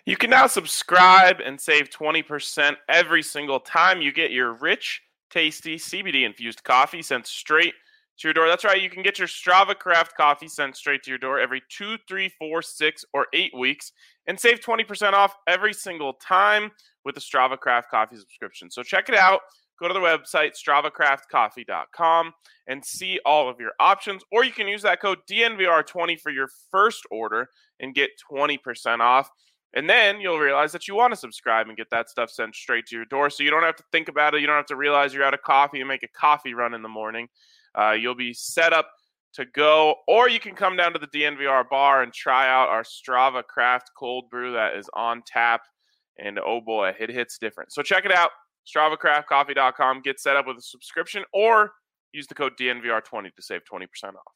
You can now subscribe and save 20% every single time you get your rich, tasty CBD-infused coffee sent straight to your door. That's right, you can get your Strava Craft coffee sent straight to your door every 2, 3, 4, 6, or 8 weeks and save 20% off every single time with the Strava Craft coffee subscription. So check it out. Go to the website, StravaCraftCoffee.com, and see all of your options. Or you can use that code DNVR20 for your first order and get 20% off. And then you'll realize that you want to subscribe and get that stuff sent straight to your door. So you don't have to think about it. You don't have to realize you're out of coffee and make a coffee run in the morning. You'll be set up to go. Or you can come down to the DNVR bar and try out our Strava Craft cold brew that is on tap. And oh boy, it hits different. So check it out. StravaCraftCoffee.com. Get set up with a subscription or use the code DNVR20 to save 20% off.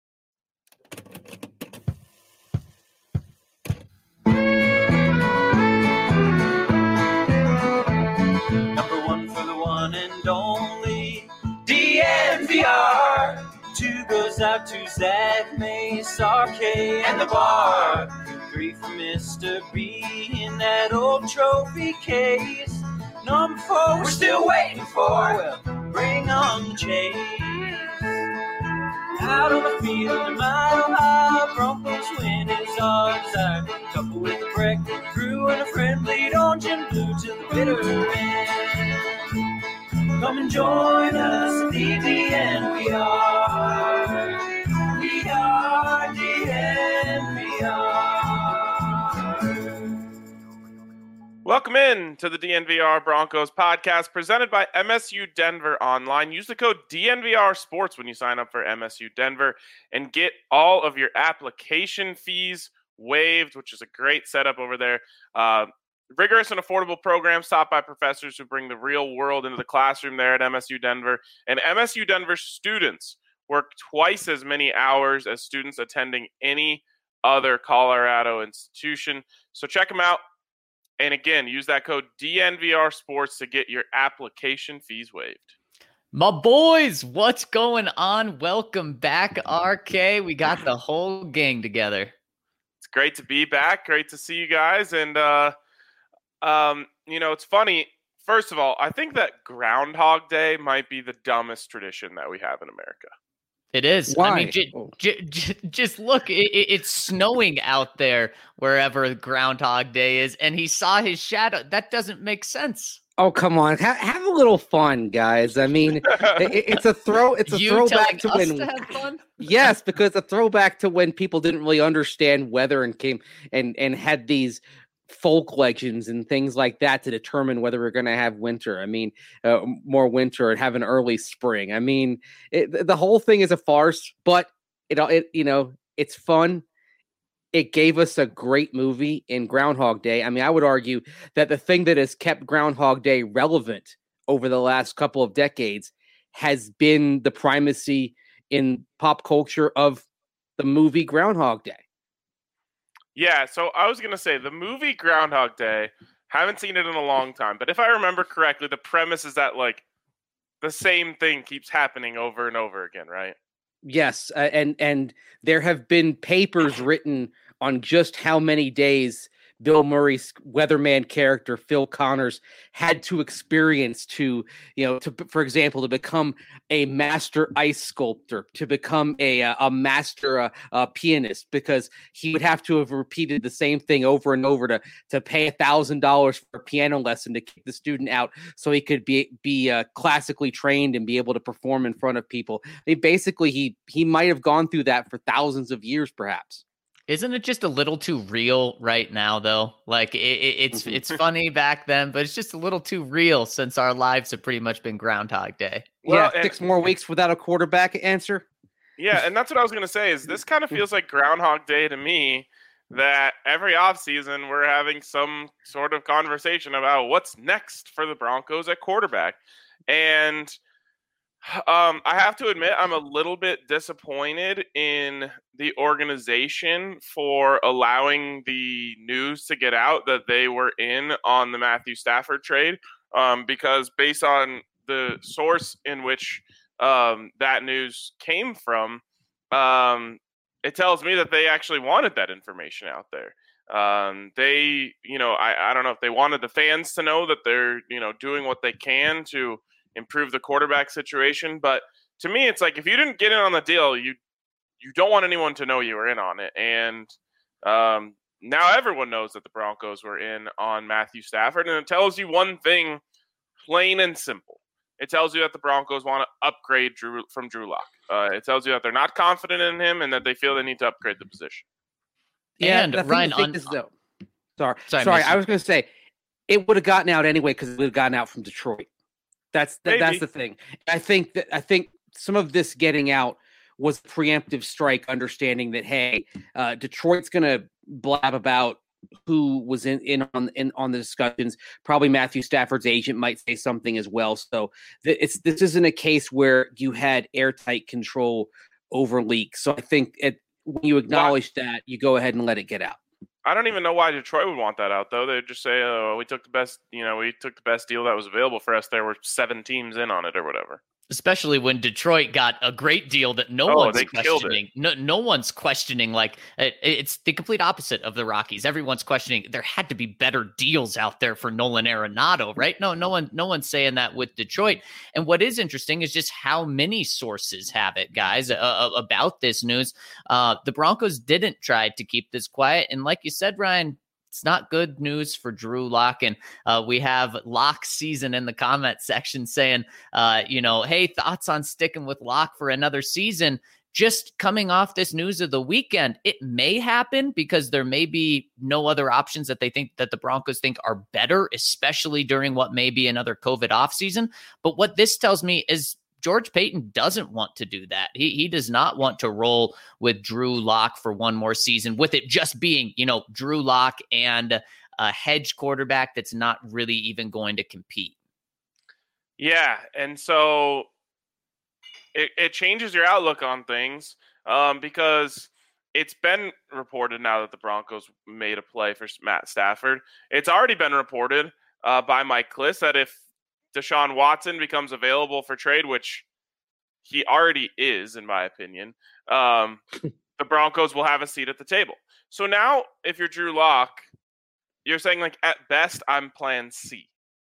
Number one for the one and only DNVR. 2 goes out to Zach Mace, RK, and the bar. 3 for Mr. B in that old trophy case. Number 4 we're still waiting for. Well, bring on the chase. Out on the field, the Mile High Broncos win is our desire. Couple with a break, crew and a friend, lead orange and blue to the bitter end. Come and join us at the DNVR. We are DNVR. Welcome in to the DNVR Broncos podcast presented by MSU Denver Online. Use the code DNVR Sports when you sign up for MSU Denver and get all of your application fees waived, which is a great setup over there. Rigorous and affordable programs taught by professors who bring the real world into the classroom there at MSU Denver. And MSU Denver students work twice as many hours as students attending any other Colorado institution. So check them out. And again, use that code DNVR Sports to get your application fees waived. My boys, what's going on? Welcome back, RK. We got the whole gang together. It's great to be back. Great to see you guys. And, it's funny. First of all, I think that Groundhog Day might be the dumbest tradition that we have in America. It is. Why? I mean, just look. It's snowing out there wherever Groundhog Day is, and he saw his shadow. That doesn't make sense. Oh, come on. Have a little fun, guys. I mean, it's a throwback to when to have fun? Yes, because a throwback to when people didn't really understand weather and came and had these folk legends and things like that to determine whether we're going to have winter. I mean, more winter and have an early spring. I mean, the whole thing is a farce, but it's fun. It gave us a great movie in Groundhog Day. I mean, I would argue that the thing that has kept Groundhog Day relevant over the last couple of decades has been the primacy in pop culture of the movie Groundhog Day. Yeah, so I was going to say the movie Groundhog Day, haven't seen it in a long time, but if I remember correctly, the premise is that like the same thing keeps happening over and over again, right? Yes, and there have been papers written on just how many days Bill Murray's weatherman character, Phil Connors, had to experience for example, to become a master ice sculptor, to become a master pianist, because he would have to have repeated the same thing over and over to pay $1,000 for a piano lesson to kick the student out so he could be classically trained and be able to perform in front of people. I mean, basically, he might have gone through that for thousands of years, perhaps. Isn't it just a little too real right now, though? Like it's funny back then, but it's just a little too real since our lives have pretty much been Groundhog Day. Well, 6 more weeks without a quarterback answer. Yeah, and that's what I was going to say. Is this kind of feels like Groundhog Day to me? That every offseason we're having some sort of conversation about what's next for the Broncos at quarterback, and I have to admit, I'm a little bit disappointed in the organization for allowing the news to get out that they were in on the Matthew Stafford trade, because based on the source in which that news came from, it tells me that they actually wanted that information out there. They, don't know if they wanted the fans to know that they're, doing what they can to improve the quarterback situation. But to me, it's like if you didn't get in on the deal, you don't want anyone to know you were in on it. And now everyone knows that the Broncos were in on Matthew Stafford, and it tells you one thing, plain and simple. It tells you that the Broncos want to upgrade Drew Lock. It tells you that they're not confident in him and that they feel they need to upgrade the position. Yeah, and Ryan, sorry, I was going to say it would have gotten out anyway because it would have gotten out from Detroit. That's the thing. I think some of this getting out was a preemptive strike, understanding that hey, Detroit's going to blab about who was in on the discussions. Probably Matthew Stafford's agent might say something as well. So this isn't a case where you had airtight control over leaks. So I think when you acknowledge that, you go ahead and let it get out. I don't even know why Detroit would want that out, though. They'd just say, "Oh, we took the best deal that was available for us. There were 7 teams in on it, or whatever." Especially when Detroit got a great deal that no one's questioning. No one's questioning. Like it's the complete opposite of the Rockies. Everyone's questioning. There had to be better deals out there for Nolan Arenado, right? No one's saying that with Detroit. And what is interesting is just how many sources have it, guys, about this news. The Broncos didn't try to keep this quiet, and like you said, Ryan, it's not good news for Drew Lock. And we have Lock Season in the comment section saying, hey, thoughts on sticking with Lock for another season? Just coming off this news of the weekend, it may happen because there may be no other options that the Broncos think are better, especially during what may be another COVID offseason. But what this tells me is George Paton doesn't want to do that. He does not want to roll with Drew Lock for one more season, with it just being, Drew Lock and a hedge quarterback that's not really even going to compete. Yeah, and so it changes your outlook on things because it's been reported now that the Broncos made a play for Matt Stafford. It's already been reported by Mike Klis that if Deshaun Watson becomes available for trade, which he already is, in my opinion, the Broncos will have a seat at the table. So now, if you're Drew Lock, you're saying, like, at best, I'm plan C.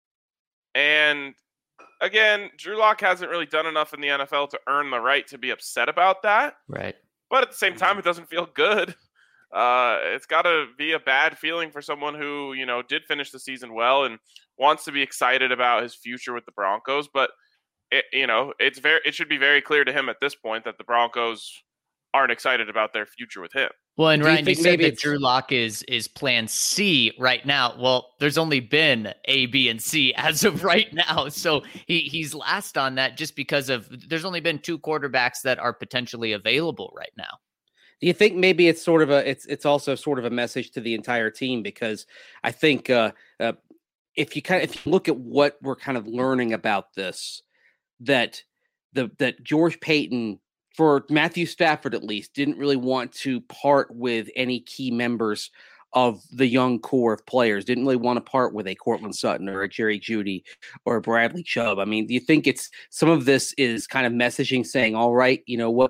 And, again, Drew Lock hasn't really done enough in the NFL to earn the right to be upset about that. Right. But at the same time, it doesn't feel good. It's got to be a bad feeling for someone who, did finish the season well and wants to be excited about his future with the Broncos. But, it should be very clear to him at this point that the Broncos aren't excited about their future with him. Well, and Ryan, you said that Drew Lock is plan C right now. Well, there's only been A, B, and C as of right now. So he's last on that just because there's only been 2 quarterbacks that are potentially available right now. Do you think maybe it's sort of it's also sort of a message to the entire team? Because I think if you look at what we're kind of learning about this, that George Paton, for Matthew Stafford at least, didn't really want to part with any key members of the young core of players. Didn't really want to part with a Courtland Sutton or a Jerry Jeudy or a Bradley Chubb. I mean, do you think it's some of this is kind of messaging saying, all right,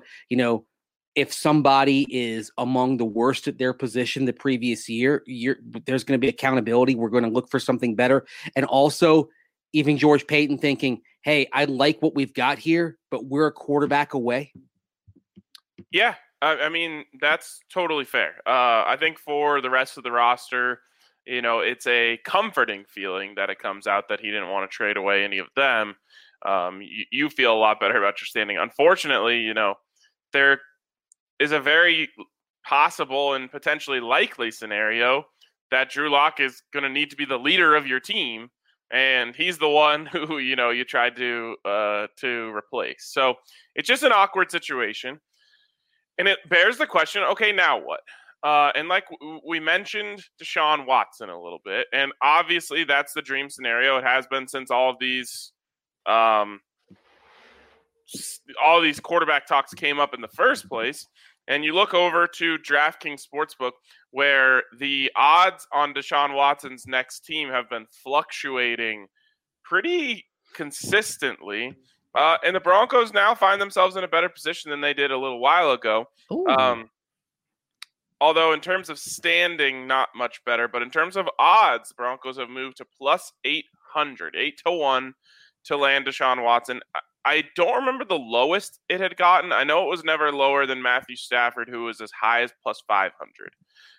if somebody is among the worst at their position the previous year, there's going to be accountability. We're going to look for something better. And also even George Paton thinking, hey, I like what we've got here, but we're a quarterback away. Yeah, I mean, that's totally fair. I think for the rest of the roster, it's a comforting feeling that it comes out that he didn't want to trade away any of them. You feel a lot better about your standing. Unfortunately, there is a very possible and potentially likely scenario that Drew Lock is going to need to be the leader of your team, and he's the one who you tried to replace. So it's just an awkward situation, and it bears the question: okay, now what? And like we mentioned, Deshaun Watson a little bit, and obviously that's the dream scenario. It has been since all of these quarterback talks came up in the first place. And you look over to DraftKings Sportsbook, where the odds on Deshaun Watson's next team have been fluctuating pretty consistently. And the Broncos now find themselves in a better position than they did a little while ago. Although in terms of standing, not much better. But in terms of odds, the Broncos have moved to plus 800, 8-1 to land Deshaun Watson. I don't remember the lowest it had gotten. I know it was never lower than Matthew Stafford, who was as high as plus 500.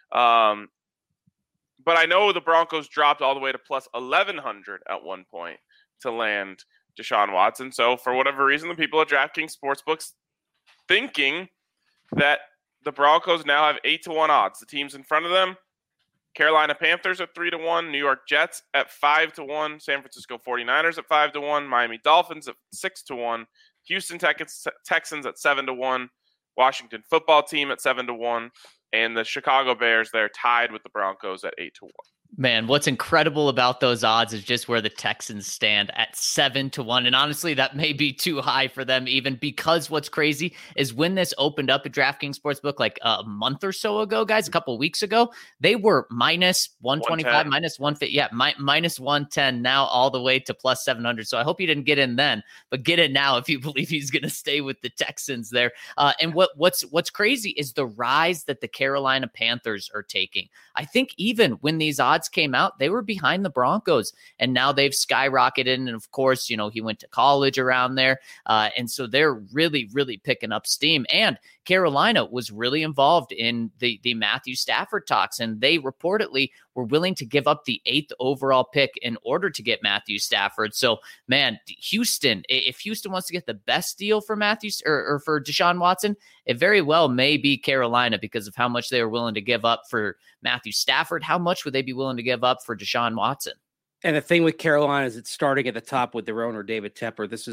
But I know the Broncos dropped all the way to plus 1,100 at one point to land Deshaun Watson. So for whatever reason, the people at DraftKings Sportsbooks thinking that the Broncos now have 8-1 odds. The teams in front of them, Carolina Panthers at 3-1, New York Jets at 5-1, San Francisco 49ers at 5-1, Miami Dolphins at 6-1, Houston Texans at 7-1, Washington Football Team at 7-1, and the Chicago Bears, they're tied with the Broncos at 8-1. Man, what's incredible about those odds is just where the Texans stand at 7-1. And honestly, that may be too high for them, even because what's crazy is when this opened up at DraftKings Sportsbook like a month or so ago, guys, a couple of weeks ago, they were minus 125, minus 150. Yeah, minus 110 now all the way to plus 700. So I hope you didn't get in then, but get in now if you believe he's going to stay with the Texans there. And what's crazy is the rise that the Carolina Panthers are taking. I think even when these odds came out, they were behind the Broncos, and now they've skyrocketed. And of course, he went to college around there. And so they're really, really picking up steam. And Carolina was really involved in the Matthew Stafford talks, and they reportedly were willing to give up the 8th overall pick in order to get Matthew Stafford. So, man, Houston, if Houston wants to get the best deal for Matthew or for Deshaun Watson, it very well may be Carolina because of how much they were willing to give up for Matthew Stafford. How much would they be willing to give up for Deshaun Watson? And the thing with Carolina is it's starting at the top with their owner, David Tepper. This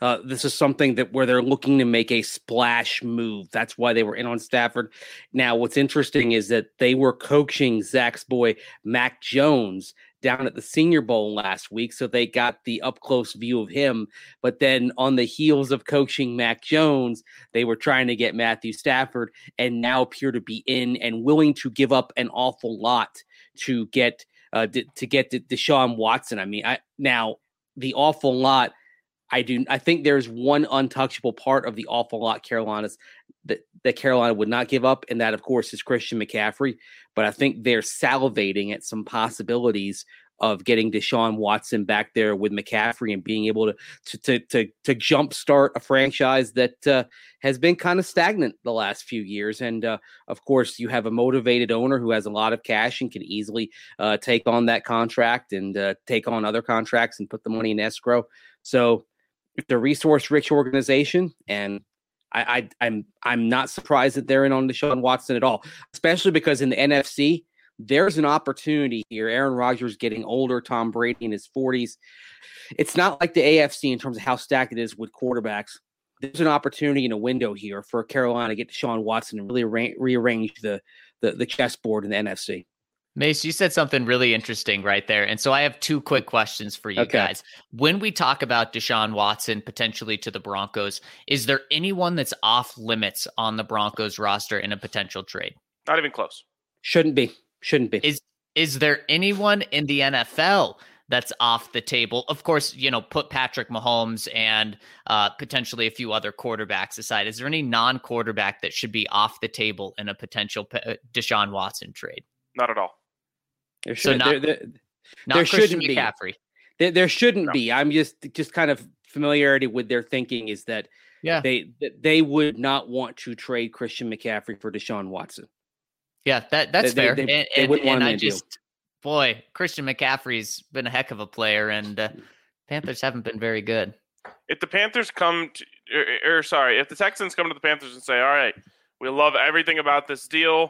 is something that where they're looking to make a splash move. That's why they were in on Stafford. Now, what's interesting is that they were coaching Zach's boy, Mac Jones, down at the Senior Bowl last week. So they got the up close view of him. But then on the heels of coaching Mac Jones, they were trying to get Matthew Stafford and now appear to be in and willing to give up an awful lot to get Deshaun Watson. I mean, now the awful lot, I think there's one untouchable part of the awful lot that Carolina would not give up, and that, of course, is Christian McCaffrey. But I think they're salivating at some possibilities of getting Deshaun Watson back there with McCaffrey and being able to jumpstart a franchise that has been kind of stagnant the last few years. And of course, you have a motivated owner who has a lot of cash and can easily take on that contract and take on other contracts and put the money in escrow. So it's a resource-rich organization, and I'm not surprised that they're in on Deshaun Watson at all, especially because in the NFC, there's an opportunity here. Aaron Rodgers getting older, Tom Brady in his 40s. It's not like the AFC in terms of how stacked it is with quarterbacks. There's an opportunity in a window here for Carolina to get Deshaun Watson and really rearrange the chessboard in the NFC. Mace, you said something really interesting right there. And so I have two quick questions for you guys. When we talk about Deshaun Watson potentially to the Broncos, is there anyone that's off limits on the Broncos roster in a potential trade? Not even close. Shouldn't be. Is there anyone in the NFL that's off the table? Of course, put Patrick Mahomes and potentially a few other quarterbacks aside. Is there any non-quarterback that should be off the table in a potential Deshaun Watson trade? Not at all. There shouldn't be. McCaffrey. There shouldn't be. I'm just kind of familiarity with their thinking is that they would not want to trade Christian McCaffrey for Deshaun Watson. Yeah, that's fair. They wouldn't want to do. Boy, Christian McCaffrey's been a heck of a player, and Panthers haven't been very good. If the Panthers if the Texans come to the Panthers and say, all right, we love everything about this deal,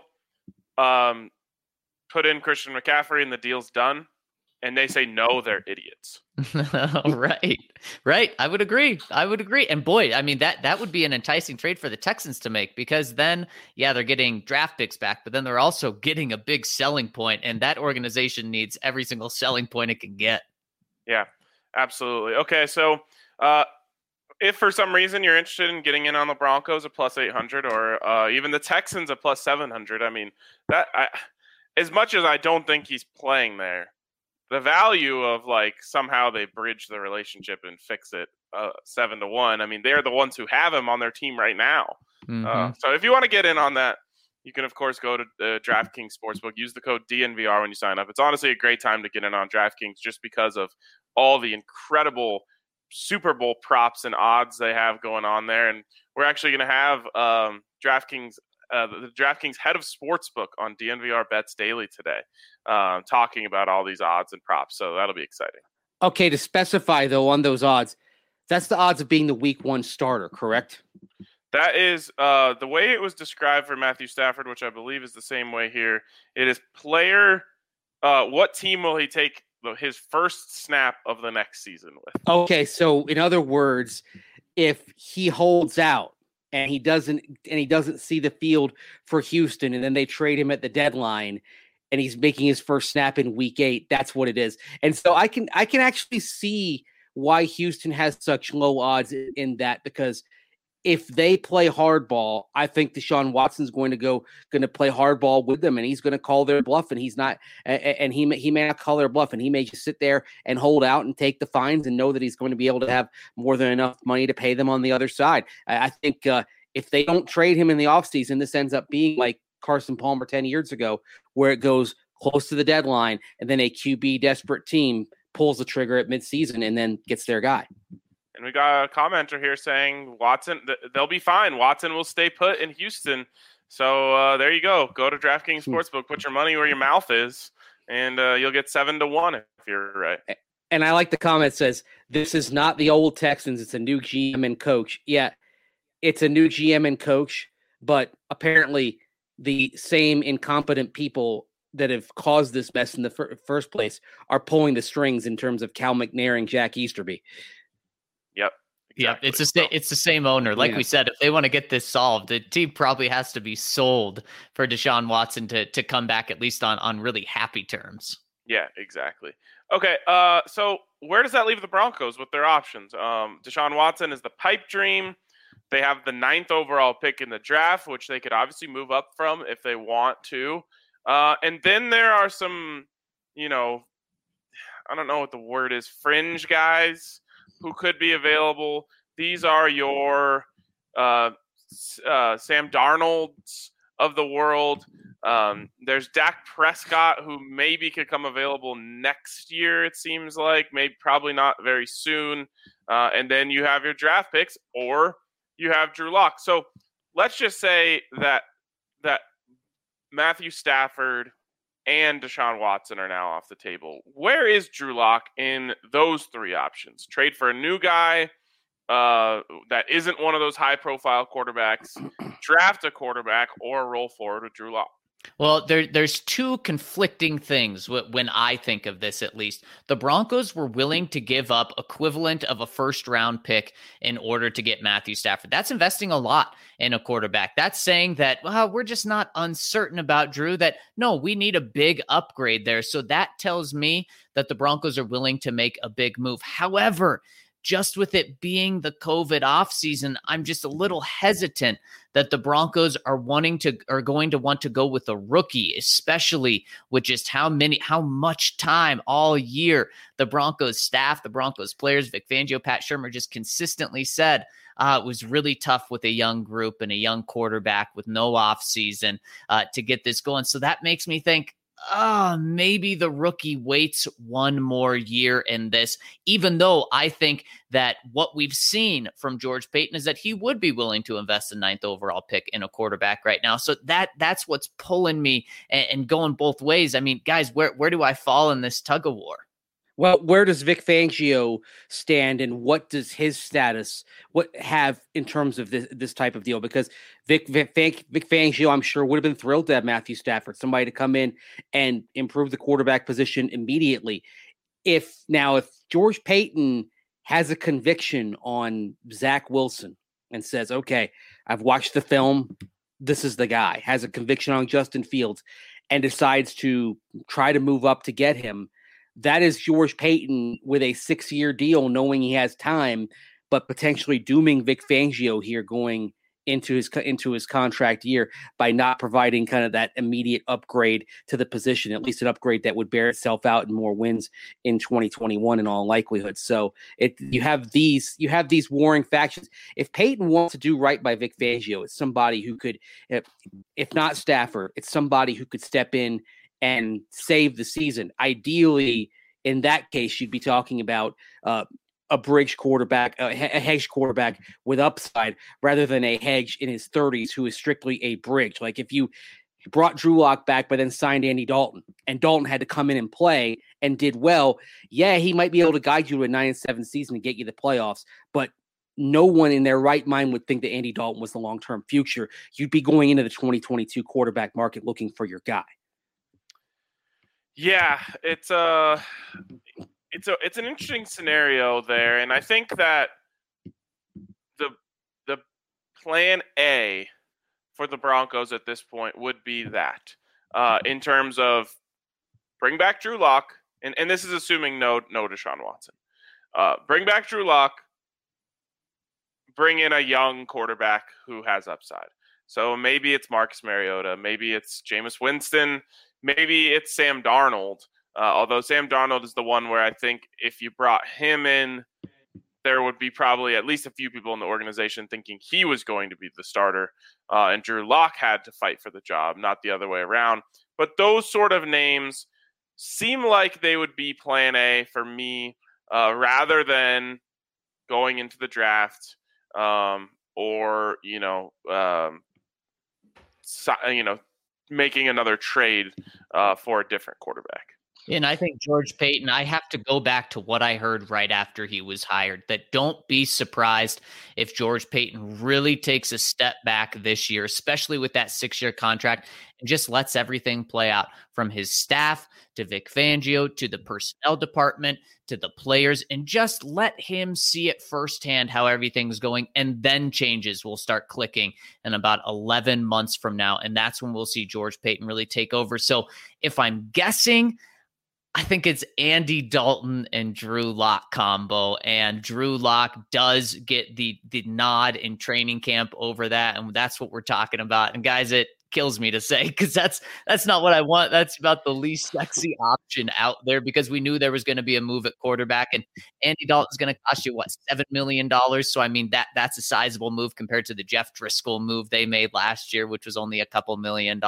put in Christian McCaffrey and the deal's done, and they say no, they're idiots. Right. I would agree. And boy, I mean, that would be an enticing trade for the Texans to make, because then, they're getting draft picks back, but then they're also getting a big selling point, and that organization needs every single selling point it can get. Yeah, absolutely. Okay, so if for some reason you're interested in getting in on the Broncos at plus 800 or even the Texans at plus 700, I mean, as much as I don't think he's playing there, the value of somehow they bridge the relationship and fix it 7-1. I mean, they're the ones who have him on their team right now. Mm-hmm. So if you want to get in on that, you can, of course, go to DraftKings Sportsbook. Use the code DNVR when you sign up. It's honestly a great time to get in on DraftKings just because of all the incredible Super Bowl props and odds they have going on there. And we're actually going to have DraftKings, the DraftKings head of Sportsbook on DNVR Bets Daily today, talking about all these odds and props. So that'll be exciting. Okay, to specify, though, on those odds, that's the odds of being the week 1 starter, correct? That is the way it was described for Matthew Stafford, which I believe is the same way here. It is player, what team will he take his first snap of the next season with? Okay, so in other words, if he holds out and he doesn't see the field for Houston, and then they trade him at the deadline, and he's making his first snap in week 8, that's what it is. And so I can actually see why Houston has such low odds in that, because if they play hardball, I think Deshaun Watson's going to play hardball with them, and he's going to call their bluff, and he's not, and he may not call their bluff, and he may just sit there and hold out and take the fines and know that he's going to be able to have more than enough money to pay them on the other side. I think if they don't trade him in the offseason, this ends up being like Carson Palmer 10 years ago, where it goes close to the deadline, and then a QB desperate team pulls the trigger at midseason and then gets their guy. And we got a commenter here saying Watson, they'll be fine. Watson will stay put in Houston. So there you go. Go to DraftKings Sportsbook, put your money where your mouth is, and you'll get 7-1 if you're right. And I like the comment says, this is not the old Texans. It's a new GM and coach. Yeah, it's a new GM and coach, but apparently the same incompetent people that have caused this mess in the first place are pulling the strings in terms of Cal McNair and Jack Easterby. Yep. Exactly. Yeah, it's the same owner. Like we said, if they want to get this solved, the team probably has to be sold for Deshaun Watson to come back at least on really happy terms. Yeah, exactly. Okay, so where does that leave the Broncos with their options? Deshaun Watson is the pipe dream. They have the 9th overall pick in the draft, which they could obviously move up from if they want to. And then there are some, I don't know what the word is, fringe guys who could be available. These are your Sam Darnolds of the world. There's Dak Prescott, who maybe could come available next year, it seems like. Maybe probably not very soon. And then you have your draft picks, or you have Drew Lock. So let's just say that Matthew Stafford and Deshaun Watson are now off the table. Where is Drew Lock in those 3 options? Trade for a new guy that isn't one of those high-profile quarterbacks, draft a quarterback, or roll forward with Drew Lock. Well, there's 2 conflicting things when I think of this, at least. The Broncos were willing to give up equivalent of a first-round pick in order to get Matthew Stafford. That's investing a lot in a quarterback. That's saying that, well, we're just not uncertain about Drew, that, no, we need a big upgrade there. So that tells me that the Broncos are willing to make a big move. However, just with it being the COVID offseason, I'm just a little hesitant that the Broncos are going to want to go with a rookie, especially with just how much time all year the Broncos staff, the Broncos players, Vic Fangio, Pat Shurmur just consistently said it was really tough with a young group and a young quarterback with no offseason to get this going. So that makes me think, maybe the rookie waits one more year in this, even though I think that what we've seen from George Paton is that he would be willing to invest the 9th overall pick in a quarterback right now. So that's what's pulling me and going both ways. I mean, guys, where do I fall in this tug of war? Well, where does Vic Fangio stand, and what does his status have in terms of this type of deal? Because Vic Fangio, I'm sure, would have been thrilled to have Matthew Stafford, somebody to come in and improve the quarterback position immediately. If George Paton has a conviction on Zach Wilson and says, okay, I've watched the film, this is the guy, has a conviction on Justin Fields, and decides to try to move up to get him, that is George Paton with a 6-year deal, knowing he has time, but potentially dooming Vic Fangio here going into his contract year by not providing kind of that immediate upgrade to the position, at least an upgrade that would bear itself out in more wins in 2021 in all likelihood. So you have these warring factions. If Payton wants to do right by Vic Fangio, it's somebody who could, if not Stafford, it's somebody who could step in and save the season. Ideally, in that case, you'd be talking about a bridge quarterback, a hedge quarterback with upside, rather than a hedge in his 30s who is strictly a bridge. Like if you brought Drew Lock back, but then signed Andy Dalton, and Dalton had to come in and play and did well, yeah, he might be able to guide you to a 9-7 season and get you the playoffs, but no one in their right mind would think that Andy Dalton was the long-term future. You'd be going into the 2022 quarterback market looking for your guy. Yeah, it's an interesting scenario there, and I think that the plan A for the Broncos at this point would be that in terms of bring back Drew Lock, and this is assuming no Deshaun Watson. Bring back Drew Lock, bring in a young quarterback who has upside. So maybe it's Marcus Mariota, maybe it's Jameis Winston, maybe it's Sam Darnold. Although Sam Darnold is the one where I think if you brought him in, there would be probably at least a few people in the organization thinking he was going to be the starter, and Drew Lock had to fight for the job, not the other way around. But those sort of names seem like they would be plan A for me, rather than going into the draft or making another trade for a different quarterback. And I think George Paton, I have to go back to what I heard right after he was hired, that don't be surprised if George Paton really takes a step back this year, especially with that 6-year contract, and just lets everything play out from his staff to Vic Fangio to the personnel department to the players, and just let him see it firsthand how everything's going, and then changes will start clicking in about 11 months from now, and that's when we'll see George Paton really take over. So if I'm guessing, I think it's Andy Dalton and Drew Lock combo, and Drew Lock does get the nod in training camp over that, and that's what we're talking about. And guys, it kills me to say, because that's not what I want. That's about the least sexy option out there, because we knew there was going to be a move at quarterback, and Andy Dalton's going to cost you $7 million. So I mean that's a sizable move compared to the Jeff Driscoll move they made last year, which was only a couple $1 million.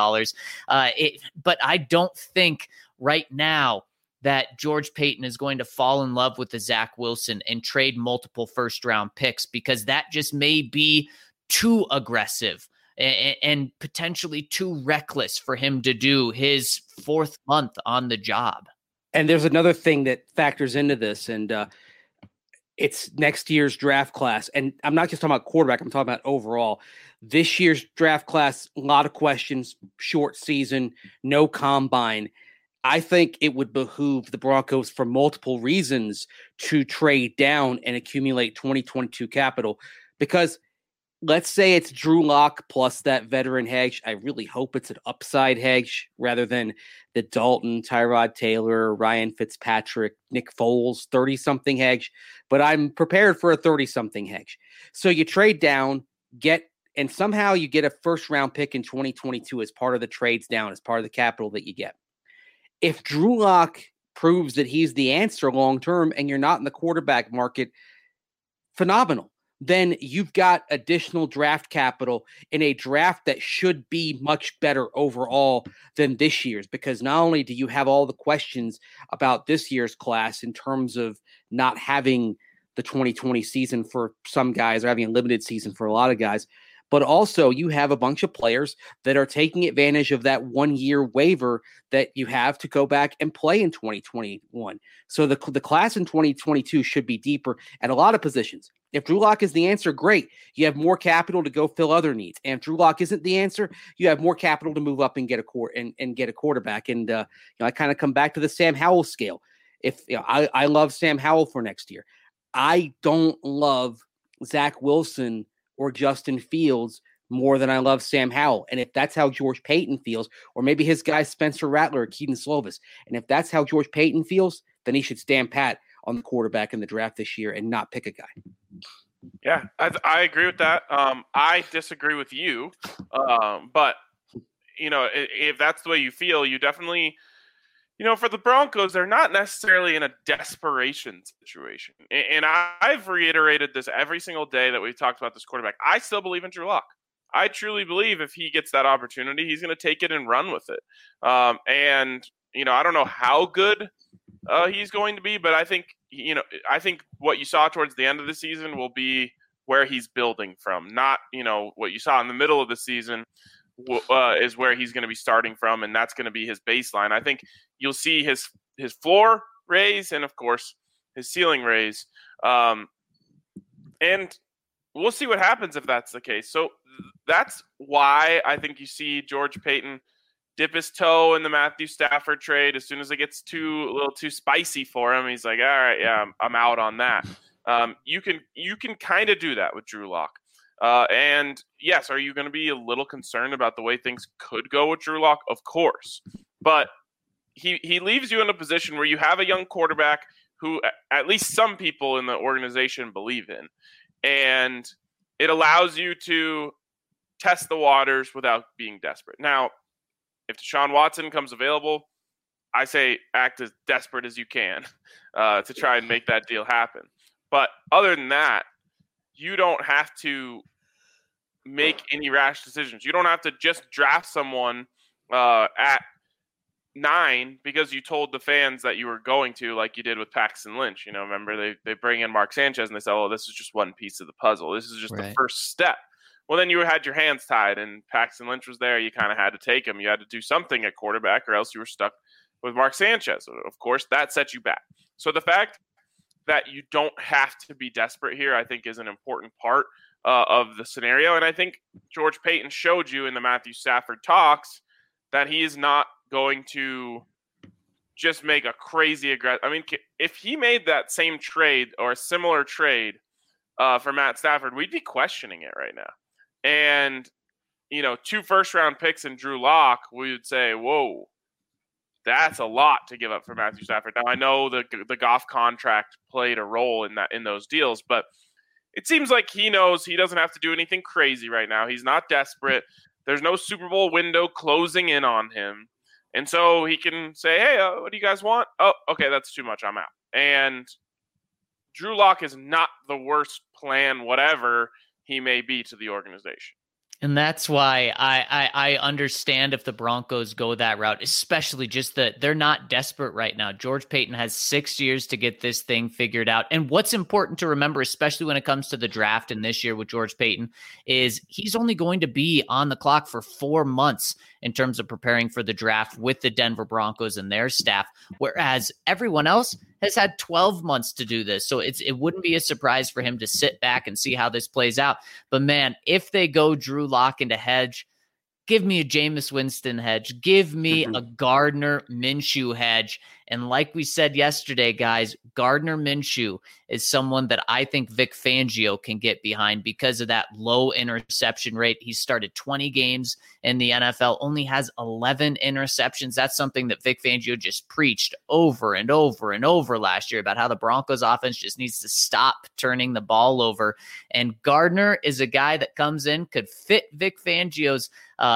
But I don't think right now that George Paton is going to fall in love with the Zach Wilson and trade multiple first-round picks, because that just may be too aggressive and potentially too reckless for him to do his 4th month on the job. And there's another thing that factors into this, and it's next year's draft class. And I'm not just talking about quarterback, I'm talking about overall. This year's draft class, a lot of questions, short season, no combine. I think it would behoove the Broncos for multiple reasons to trade down and accumulate 2022 capital, because let's say it's Drew Lock plus that veteran hedge. I really hope it's an upside hedge rather than the Dalton, Tyrod Taylor, Ryan Fitzpatrick, Nick Foles 30-something hedge, but I'm prepared for a 30-something hedge. So you trade down, and somehow you get a first-round pick in 2022 as part of the trades down, as part of the capital that you get. If Drew Lock proves that he's the answer long-term and you're not in the quarterback market, phenomenal. Then you've got additional draft capital in a draft that should be much better overall than this year's, because not only do you have all the questions about this year's class in terms of not having the 2020 season for some guys or having a limited season for a lot of guys, but also you have a bunch of players that are taking advantage of that 1-year waiver that you have to go back and play in 2021. So the class in 2022 should be deeper at a lot of positions. If Drew Lock is the answer, great. You have more capital to go fill other needs. And if Drew Lock isn't the answer, you have more capital to move up and get a quarterback. And I kind of come back to the Sam Howell scale. If I love Sam Howell for next year, I don't love Zach Wilson or Justin Fields more than I love Sam Howell. And if that's how George Paton feels, or maybe his guy Spencer Rattler or Keaton Slovis, and if that's how George Paton feels, then he should stand pat on the quarterback in the draft this year and not pick a guy. Yeah, I agree with that. I disagree with you, but if that's the way you feel, you definitely, for the Broncos, they're not necessarily in a desperation situation. And I've reiterated this every single day that we've talked about this quarterback. I still believe in Drew Lock. I truly believe if he gets that opportunity, he's going to take it and run with it. And I don't know how good he's going to be, but I think what you saw towards the end of the season will be where he's building from. Not what you saw in the middle of the season is where he's going to be starting from, and that's going to be his baseline. I think you'll see his floor raise, and of course his ceiling raise, and we'll see what happens if that's the case. So that's why I think you see George Paton dip his toe in the Matthew Stafford trade. As soon as it gets a little too spicy for him, he's like, all right, yeah, I'm out on that. You can kind of do that with Drew Lock. And yes, are you going to be a little concerned about the way things could go with Drew Lock? Of course. But he leaves you in a position where you have a young quarterback who at least some people in the organization believe in. And it allows you to test the waters without being desperate. Now, if Deshaun Watson comes available, I say act as desperate as you can to try and make that deal happen. But other than that, you don't have to make any rash decisions. You don't have to just draft someone at 9 because you told the fans that you were going to, like you did with Paxton Lynch. Remember they bring in Mark Sanchez and they say, oh, this is just one piece of the puzzle. This is just the first step. Well, then you had your hands tied and Paxton Lynch was there. You kind of had to take him. You had to do something at quarterback or else you were stuck with Mark Sanchez. Of course, that set you back. So the fact that you don't have to be desperate here, I think, is an important part of the scenario. And I think George Paton showed you in the Matthew Stafford talks that he is not going to just make a crazy aggressive. I mean, if he made that same trade or a similar trade for Matt Stafford, we'd be questioning it right now. And, 2 first-round picks in Drew Lock, we would say, whoa, that's a lot to give up for Matthew Stafford. Now, I know the Goff contract played a role in those deals, but it seems like he knows he doesn't have to do anything crazy right now. He's not desperate. There's no Super Bowl window closing in on him. And so he can say, hey, what do you guys want? Oh, okay, that's too much. I'm out. And Drew Lock is not the worst plan, whatever he may be to the organization. And that's why I understand if the Broncos go that route, especially just that they're not desperate right now. George Paton has 6 years to get this thing figured out. And what's important to remember, especially when it comes to the draft and this year with George Paton, is he's only going to be on the clock for 4 months in terms of preparing for the draft with the Denver Broncos and their staff, whereas everyone else has had 12 months to do this. So it wouldn't be a surprise for him to sit back and see how this plays out. But man, if they go Drew Lock into hedge, give me a Jameis Winston hedge. Give me a Gardner Minshew hedge. And like we said yesterday, guys, Gardner Minshew is someone that I think Vic Fangio can get behind because of that low interception rate. He started 20 games in the NFL, only has 11 interceptions. That's something that Vic Fangio just preached over and over and over last year about how the Broncos offense just needs to stop turning the ball over. And Gardner is a guy that comes in, could fit Vic Fangio's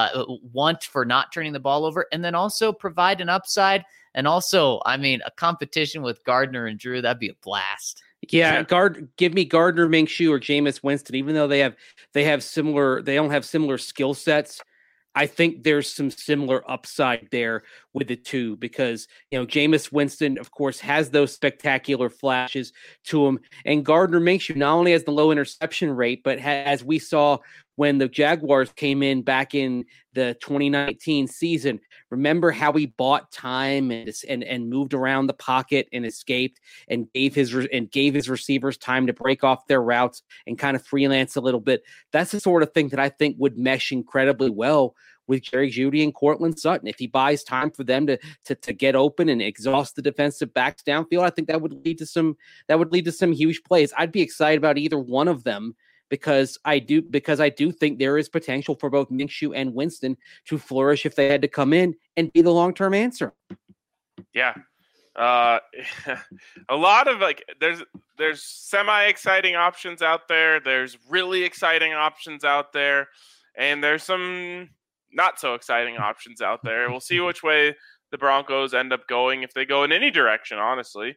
want for not turning the ball over, and then also provide an upside. And also, I mean, a competition with Gardner and Drew, that'd be a blast. Yeah, give me Gardner Minshew or Jameis Winston, even though they don't have similar skill sets. I think there's some similar upside there with the two because, Jameis Winston, of course, has those spectacular flashes to him. And Gardner Minshew not only has the low interception rate, but as we saw when the Jaguars came in back in the 2019 season, remember how he bought time and moved around the pocket and escaped and gave his receivers time to break off their routes and kind of freelance a little bit. That's the sort of thing that I think would mesh incredibly well with Jerry Jeudy and Courtland Sutton. If he buys time for them to get open and exhaust the defensive backs downfield, I think that would lead to some huge plays. I'd be excited about either one of them because I do think there is potential for both Minshew and Winston to flourish if they had to come in and be the long-term answer. Yeah. A lot of there's semi-exciting options out there. There's really exciting options out there. And there's some not so exciting options out there. We'll see which way the Broncos end up going, if they go in any direction, honestly.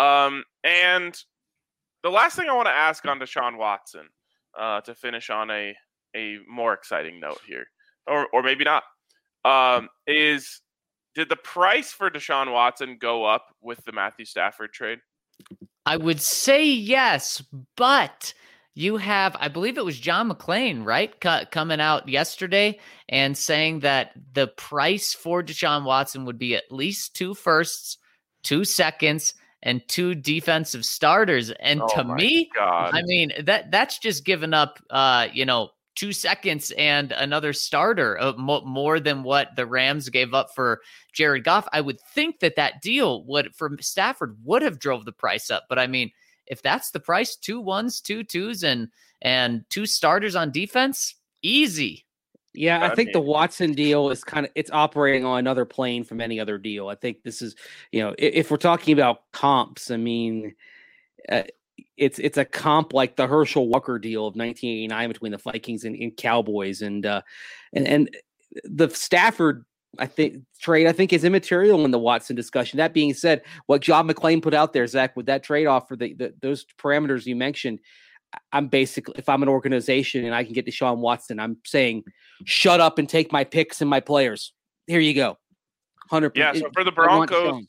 And the last thing I want to ask on Deshaun Watson, to finish on a more exciting note here, or maybe not, is did the price for Deshaun Watson go up with the Matthew Stafford trade? I would say yes, but you have, I believe it was John McClain, right, coming out yesterday and saying that the price for Deshaun Watson would be at least 2 firsts, 2 seconds, and 2 defensive starters. And to me, God. I mean, that's just giving up, 2 seconds and another starter, more than what the Rams gave up for Jared Goff. I would think that deal for Stafford would have drove the price up. But I mean, if that's the price, 2 1s, 2 2s, and 2 starters on defense, easy. Yeah, I think the Watson deal is it's operating on another plane from any other deal. I think this is, if we're talking about comps, I mean, it's a comp like the Herschel Walker deal of 1989 between the Vikings and Cowboys, and the Stafford trade is immaterial in the Watson discussion. That being said, what John McClain put out there, Zach, with that trade off for those parameters you mentioned, I'm basically, if I'm an organization and I can get Deshaun Watson, I'm saying, shut up and take my picks and my players. Here you go. 100%. Yeah, so for the Broncos,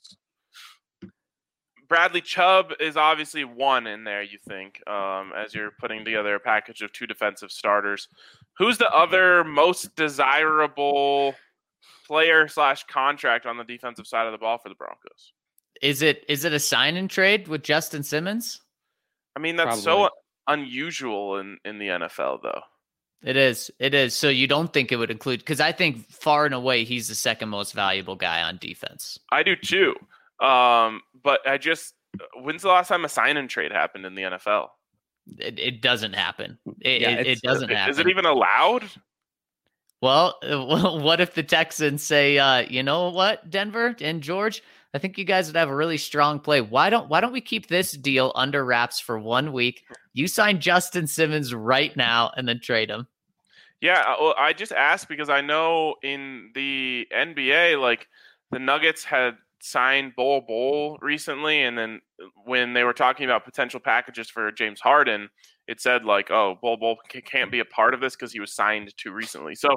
Bradley Chubb is obviously one in there, you think, as you're putting together a package of 2 defensive starters. Who's the other most desirable player / contract on the defensive side of the ball for the Broncos? Is it a sign and trade with Justin Simmons? I mean, that's so unusual in the NFL, though. It is. So you don't think it would include, because I think far and away he's the second most valuable guy on defense. I do too. But when's the last time a sign and trade happened in the NFL? It doesn't happen. It doesn't happen. Is it even allowed? Well, what if the Texans say, you know what, Denver and George, I think you guys would have a really strong play. Why don't we keep this deal under wraps for 1 week? You sign Justin Simmons right now and then trade him. Yeah, well, I just asked because I know in the NBA, like the Nuggets had signed Bol recently, and then when they were talking about potential packages for James Harden, it said like, oh, Bol can't be a part of this because he was signed too recently. So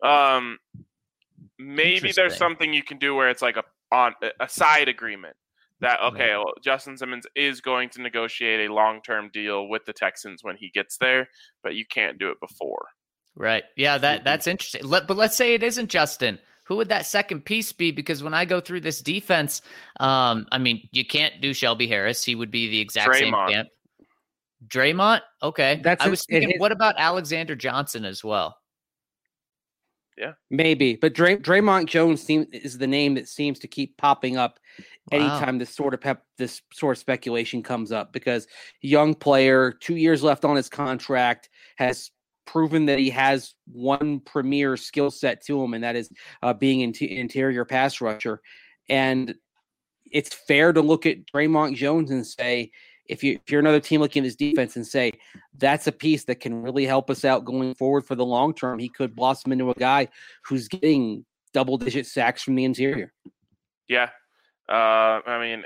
maybe there's something you can do where it's like a side agreement that, okay, well, Justin Simmons is going to negotiate a long-term deal with the Texans when he gets there, but you can't do it before. Right. Yeah, that's interesting. But let's say it isn't Justin. Who would that second piece be? Because when I go through this defense, I mean, you can't do Shelby Harris. He would be the exact same camp. Draymond? Okay. I was thinking, what about Alexander Johnson as well? Yeah, maybe. But Draymond Jones is the name that seems to keep popping up anytime this sort of speculation comes up, because young player, 2 years left on his contract, has proven that he has one premier skill set to him, and that is being an interior pass rusher. And it's fair to look at Draymond Jones and say, if you're another team looking at his defense and say, that's a piece that can really help us out going forward for the long term, he could blossom into a guy who's getting double-digit sacks from the interior. Yeah. I mean,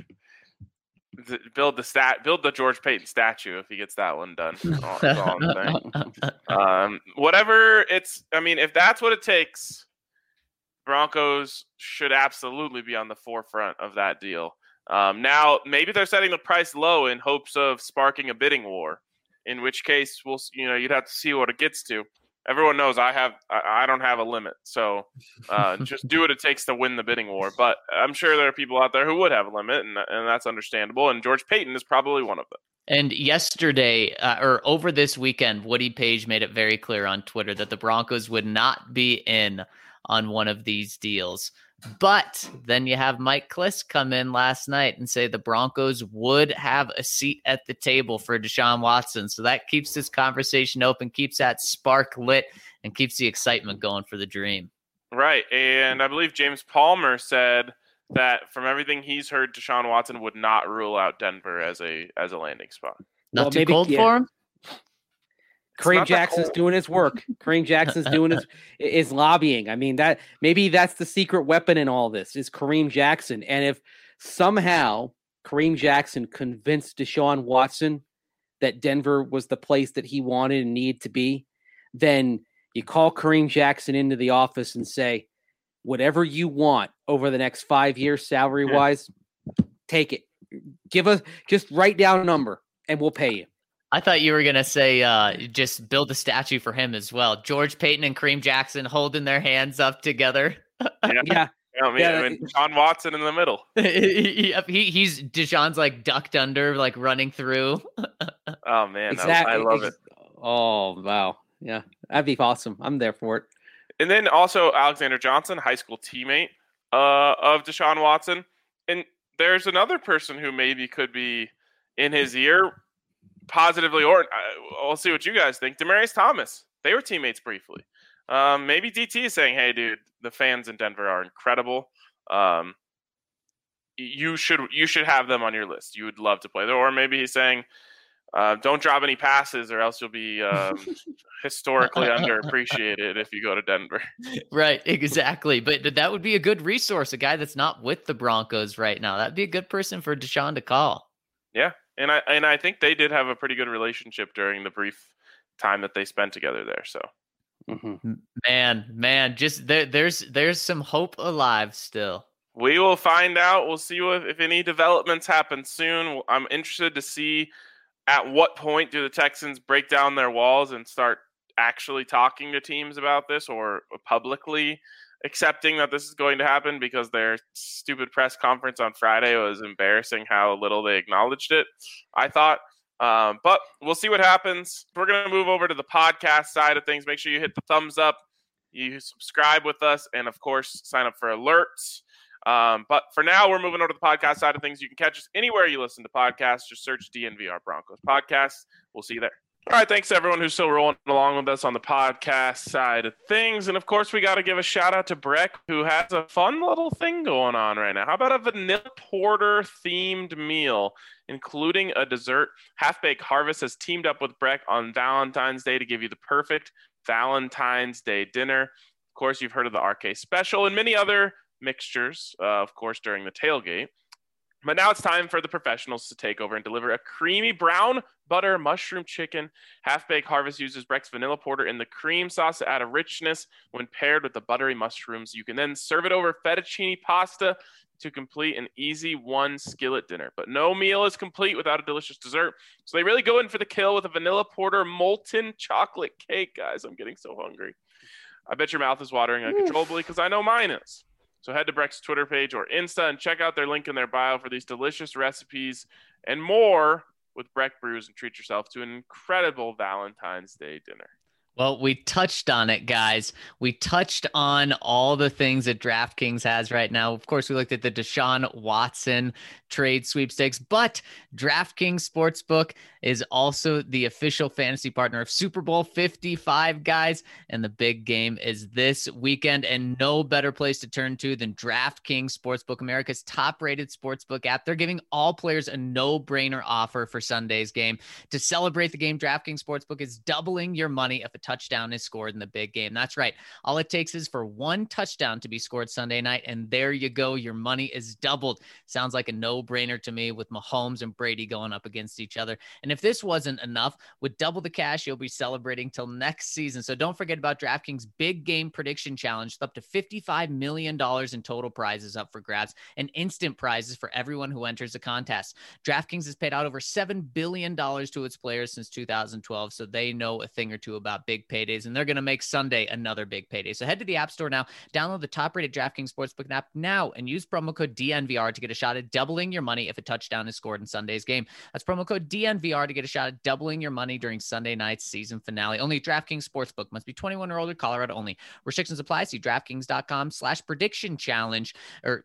build the George Payton statue if he gets that one done. That's all I'm saying. Whatever if that's what it takes, Broncos should absolutely be on the forefront of that deal. Now, maybe they're setting the price low in hopes of sparking a bidding war, in which case you'd have to see what it gets to. Everyone knows I don't have a limit, so just do what it takes to win the bidding war. But I'm sure there are people out there who would have a limit, and that's understandable. And George Payton is probably one of them. And yesterday, or over this weekend, Woody Page made it very clear on Twitter that the Broncos would not be in on one of these deals. But then you have Mike Klis come in last night and say the Broncos would have a seat at the table for Deshaun Watson. So that keeps this conversation open, keeps that spark lit, and keeps the excitement going for the dream. Right. And I believe James Palmer said that from everything he's heard, Deshaun Watson would not rule out Denver as a landing spot. Not too cold for him? Kareem Jackson's doing his work. Kareem Jackson's doing his lobbying. I mean, that maybe that's the secret weapon in all this is Kareem Jackson. And if somehow Kareem Jackson convinced Deshaun Watson that Denver was the place that he wanted and needed to be, then you call Kareem Jackson into the office and say, whatever you want over the next 5 years, salary wise, take it. Give us, just write down a number and we'll pay you. I thought you were going to say just build a statue for him as well. George Payton and Kareem Jackson holding their hands up together. Yeah. I mean, Deshaun Watson in the middle. He's Deshaun's like ducked under, like running through. Oh, man. Exactly. I love it. Oh, wow. Yeah, that'd be awesome. I'm there for it. And then also Alexander Johnson, high school teammate of Deshaun Watson. And there's another person who maybe could be in his ear, positively, or we'll see what you guys think. Demaryius Thomas. They were teammates briefly. Maybe DT is saying, hey, dude, the fans in Denver are incredible. You should have them on your list. You would love to play there. Or maybe he's saying, don't drop any passes or else you'll be historically underappreciated if you go to Denver. Right, exactly. But that would be a good resource, a guy that's not with the Broncos right now. That'd be a good person for Deshaun to call. Yeah, and I think they did have a pretty good relationship during the brief time that they spent together there. So, man, just there's some hope alive still. We will find out. We'll see if any developments happen soon. I'm interested to see at what point do the Texans break down their walls and start actually talking to teams about this or publicly accepting that this is going to happen, because their stupid press conference on Friday was embarrassing how little they acknowledged it, I thought. But we'll see what happens. We're going to move over to the podcast side of things. Make sure you hit the thumbs up, you subscribe with us, and, of course, sign up for alerts. But for now, we're moving over to the podcast side of things. You can catch us anywhere you listen to podcasts. Just search DNVR Broncos Podcast. We'll see you there. All right, thanks to everyone who's still rolling along with us on the podcast side of things. And, of course, we got to give a shout-out to Breck, who has a fun little thing going on right now. How about a vanilla porter-themed meal, including a dessert? Half-Baked Harvest has teamed up with Breck on Valentine's Day to give you the perfect Valentine's Day dinner. Of course, you've heard of the RK Special and many other mixtures, of course, during the tailgate. But now it's time for the professionals to take over and deliver a creamy brown butter mushroom chicken. Half-Baked Harvest uses Breck's vanilla porter in the cream sauce to add a richness when paired with the buttery mushrooms. You can then serve it over fettuccine pasta to complete an easy one skillet dinner. But no meal is complete without a delicious dessert. So they really go in for the kill with a vanilla porter molten chocolate cake. Guys, I'm getting so hungry. I bet your mouth is watering uncontrollably because I know mine is. So head to Breck's Twitter page or Insta and check out their link in their bio for these delicious recipes and more with Breck Brews, and treat yourself to an incredible Valentine's Day dinner. Well, we touched on it, guys. We touched on all the things that DraftKings has right now. Of course, we looked at the Deshaun Watson trade sweepstakes, but DraftKings Sportsbook is also the official fantasy partner of Super Bowl 55, guys. And the big game is this weekend, and no better place to turn to than DraftKings Sportsbook, America's top-rated sportsbook app. They're giving all players a no-brainer offer for Sunday's game. To celebrate the game, DraftKings Sportsbook is doubling your money if a touchdown is scored in the big game. That's right. All it takes is for one touchdown to be scored Sunday night, and there you go. Your money is doubled. Sounds like a no-brainer to me, with Mahomes and Brady going up against each other. And if this wasn't enough, with double the cash, you'll be celebrating till next season. So don't forget about DraftKings Big Game Prediction Challenge, with up to $55 million in total prizes up for grabs and instant prizes for everyone who enters the contest. DraftKings has paid out over $7 billion to its players since 2012, so they know a thing or two about big paydays, and they're going to make Sunday another big payday. So head to the App Store now, download the top-rated DraftKings Sportsbook app now, and use promo code DNVR to get a shot at doubling your money if a touchdown is scored in Sunday's game. That's promo code DNVR to get a shot at doubling your money during Sunday night's season finale. Only DraftKings Sportsbook. Must be 21 or older, Colorado only. Restrictions apply. See DraftKings.com/prediction challenge or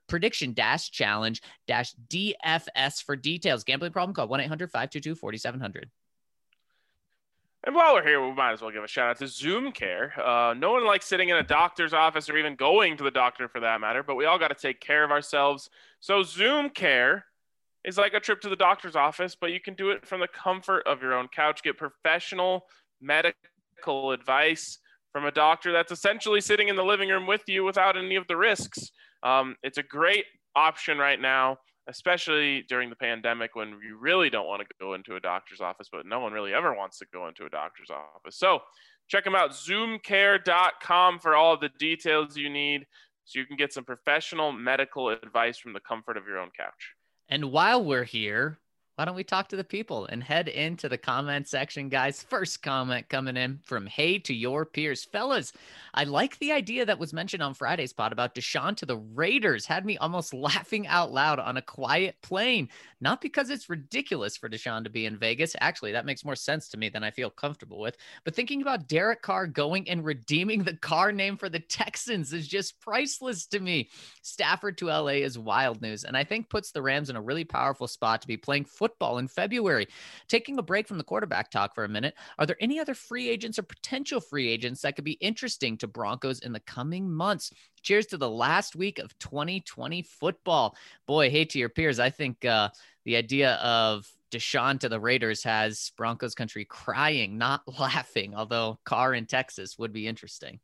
prediction-challenge-DFS for details. Gambling problem? Call 1-800-522-4700. And while we're here, we might as well give a shout out to Zoom Care. No one likes sitting in a doctor's office or even going to the doctor for that matter, but we all got to take care of ourselves. So Zoom Care is like a trip to the doctor's office, but you can do it from the comfort of your own couch. Get professional medical advice from a doctor that's essentially sitting in the living room with you without any of the risks. It's a great option right now, especially during the pandemic when you really don't want to go into a doctor's office, but no one really ever wants to go into a doctor's office. So check them out, zoomcare.com, for all of the details you need so you can get some professional medical advice from the comfort of your own couch. And while we're here, why don't we talk to the people and head into the comment section, guys? First comment coming in from Hey to Your Peers. Fellas, I like the idea that was mentioned on Friday's pod about Deshaun to the Raiders. Had me almost laughing out loud on a quiet plane. Not because it's ridiculous for Deshaun to be in Vegas. Actually, that makes more sense to me than I feel comfortable with. But thinking about Derek Carr going and redeeming the Carr name for the Texans is just priceless to me. Stafford to LA is wild news, and I think puts the Rams in a really powerful spot to be playing football in February. Taking a break from the quarterback talk for a minute, are there any other free agents or potential free agents that could be interesting to Broncos in the coming months? Cheers to the last week of 2020 football. Boy, Hey to Your Peers. I think the idea of Deshaun to the Raiders has Broncos country crying, not laughing, although Carr in Texas would be interesting.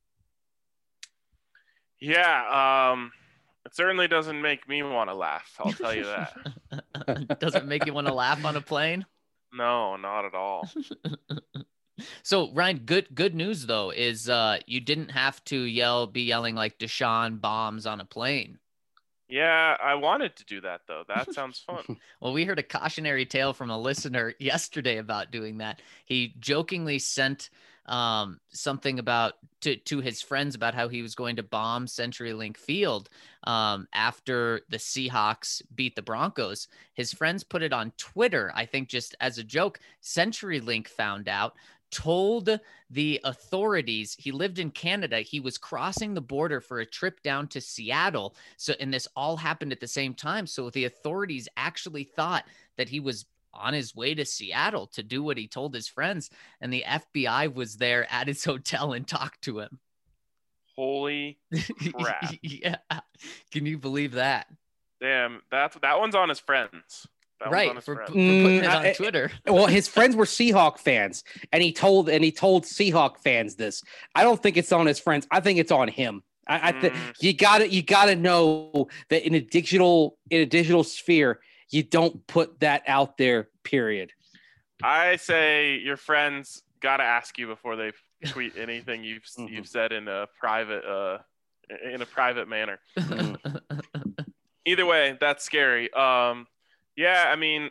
Yeah, it certainly doesn't make me want to laugh. I'll tell you that. Doesn't make you want to laugh on a plane? No, not at all. So Ryan, good news though is you didn't have to be yelling like Deshaun bombs on a plane. Yeah, I wanted to do that though. That sounds fun. Well, we heard a cautionary tale from a listener yesterday about doing that. He jokingly sent something about to his friends about how he was going to bomb CenturyLink Field after the Seahawks beat the Broncos. His friends put it on Twitter, I think just as a joke. CenturyLink found out, told the authorities. He lived in Canada. He was crossing the border for a trip down to Seattle. And this all happened at the same time. So the authorities actually thought that he was on his way to Seattle to do what he told his friends. And the FBI was there at his hotel and talked to him. Holy crap. Yeah. Can you believe that? Damn, that one's on his friends. Right, for putting it on Twitter. Well, his friends were Seahawk fans, and he told Seahawk fans this. I don't think it's on his friends. I think it's on him. I think you gotta know that in a digital sphere, you don't put that out there. Period. I say your friends gotta ask you before they tweet anything you've said in a private manner. Either way, that's scary. Yeah, I mean,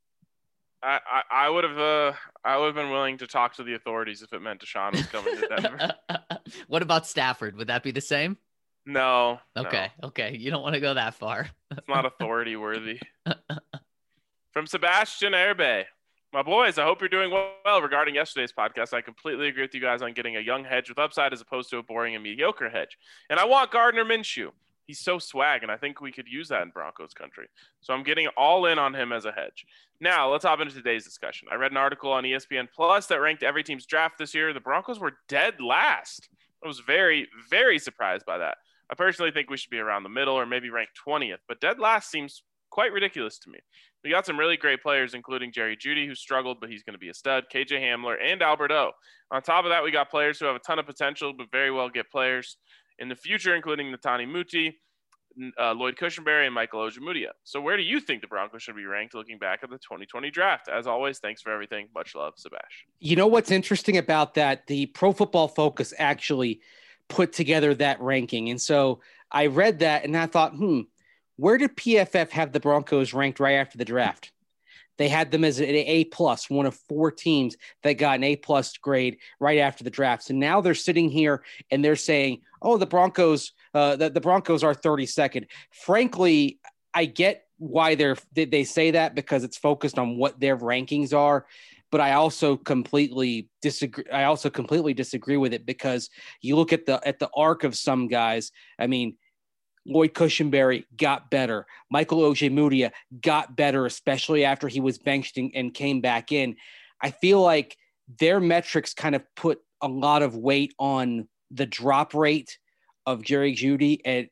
I would have been willing to talk to the authorities if it meant Deshaun was coming to Denver. What about Stafford? Would that be the same? No. Okay. You don't want to go that far. It's not authority worthy. From Sebastian Herbe. My boys, I hope you're doing well. Regarding yesterday's podcast, I completely agree with you guys on getting a young hedge with upside as opposed to a boring and mediocre hedge. And I want Gardner Minshew. He's so swag, and I think we could use that in Broncos country. So I'm getting all in on him as a hedge. Now, let's hop into today's discussion. I read an article on ESPN Plus that ranked every team's draft this year. The Broncos were dead last. I was very, very surprised by that. I personally think we should be around the middle or maybe ranked 20th, but dead last seems quite ridiculous to me. We got some really great players, including Jerry Jeudy, who struggled, but he's going to be a stud, KJ Hamler, and Albert O. On top of that, we got players who have a ton of potential, but very well get players in the future, including Netani Muti, Lloyd Cushenberry, and Michael Ojemudia. So where do you think the Broncos should be ranked looking back at the 2020 draft? As always, thanks for everything. Much love, Sebastian. You know what's interesting about that? The Pro Football Focus actually put together that ranking. And so I read that and I thought, where did PFF have the Broncos ranked right after the draft? They had them as an A+, one of 4 teams that got an A+ grade right after the draft. So now they're sitting here and they're saying, "Oh, the Broncos, the Broncos are 32nd." Frankly, I get why they say that because it's focused on what their rankings are. But I also completely disagree. Disagree with it because you look at the arc of some guys. I mean, Lloyd Cushenberry got better. Michael Ojemudia got better, especially after he was benched and came back in. I feel like their metrics kind of put a lot of weight on the drop rate of Jerry Jeudy and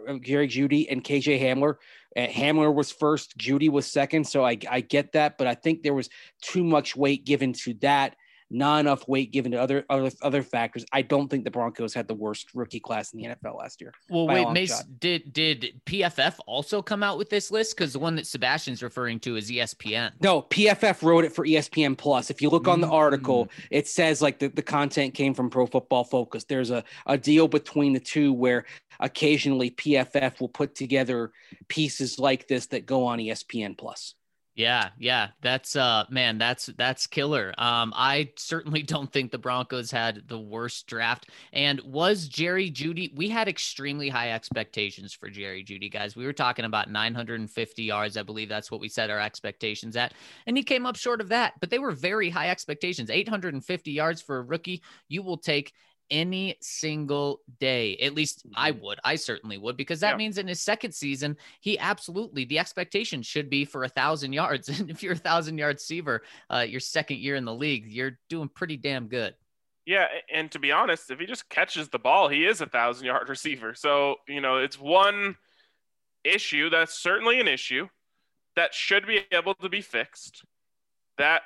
KJ Hamler. Hamler was first, Jeudy was second. So I get that, but I think there was too much weight given to that, not enough weight given to other factors. I don't think the Broncos had the worst rookie class in the NFL last year. Well, wait, Mace, did PFF also come out with this list? Because the one that Sebastian's referring to is ESPN. No, PFF wrote it for ESPN Plus. If you look on the article, it says like the content came from Pro Football Focus. There's a deal between the two where occasionally PFF will put together pieces like this that go on ESPN Plus. Yeah. That's man, that's killer. I certainly don't think the Broncos had the worst draft. And was Jerry Jeudy, we had extremely high expectations for Jerry Jeudy, guys. We were talking about 950 yards. I believe that's what we set our expectations at. And he came up short of that, but they were very high expectations. 850 yards for a rookie. You will take any single day. At least I certainly would, because that means in his second season, the expectation should be for 1,000 yards. And if you're 1,000-yard receiver, your second year in the league, you're doing pretty damn good. Yeah. And to be honest, if he just catches the ball, he is 1,000-yard receiver. So, it's one issue. That's certainly an issue that should be able to be fixed. That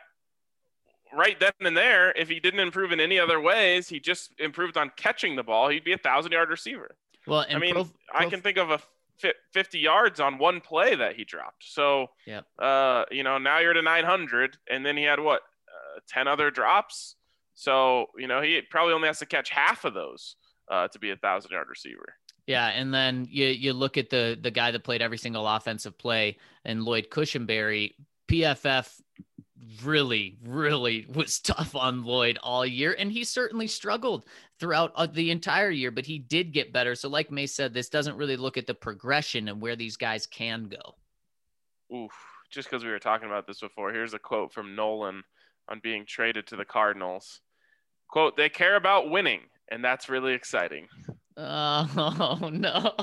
right then and there, if he didn't improve in any other ways, he just improved on catching the ball, he'd be 1,000-yard receiver. Well, and I can think of a 50 yards on one play that he dropped. So, now you're at 900, and then he had 10 other drops. So, he probably only has to catch half of those to be 1,000-yard receiver. Yeah, and then you look at the guy that played every single offensive play, and Lloyd Cushenberry. PFF really, really was tough on Lloyd all year, and he certainly struggled throughout the entire year, but he did get better. So like May said, this doesn't really look at the progression and where these guys can go. Oof, just because we were talking about this before, here's a quote from Nolan on being traded to the Cardinals. Quote, "They care about winning, and that's really exciting." Oh, no.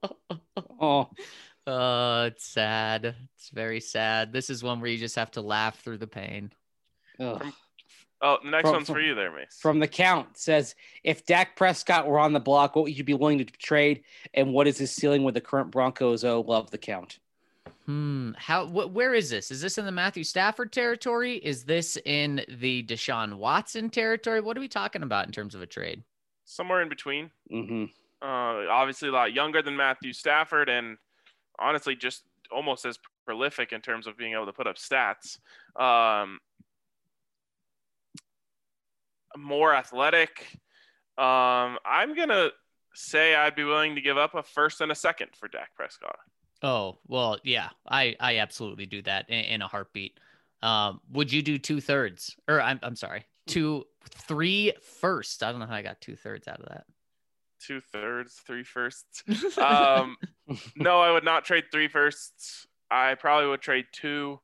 Oh, it's sad. It's very sad. This is one where you just have to laugh through the pain. The next one's for you there, Mace. From the count says, if Dak Prescott were on the block, what would you be willing to trade? And what is his ceiling with the current Broncos? Oh, love the count. Where is this? Is this in the Matthew Stafford territory? Is this in the Deshaun Watson territory? What are we talking about in terms of a trade? Somewhere in between. Mm-hmm. Obviously a lot younger than Matthew Stafford, and honestly just almost as prolific in terms of being able to put up stats. More athletic. I'm going to say I'd be willing to give up a first and a second for Dak Prescott. Oh, well, yeah, I absolutely do that in a heartbeat. Would you do 2/3? Or I'm sorry, 3 firsts. I don't know how I got 2/3 out of that. 2/3, 3 firsts. No, I would not trade 3 firsts. I probably would trade 2.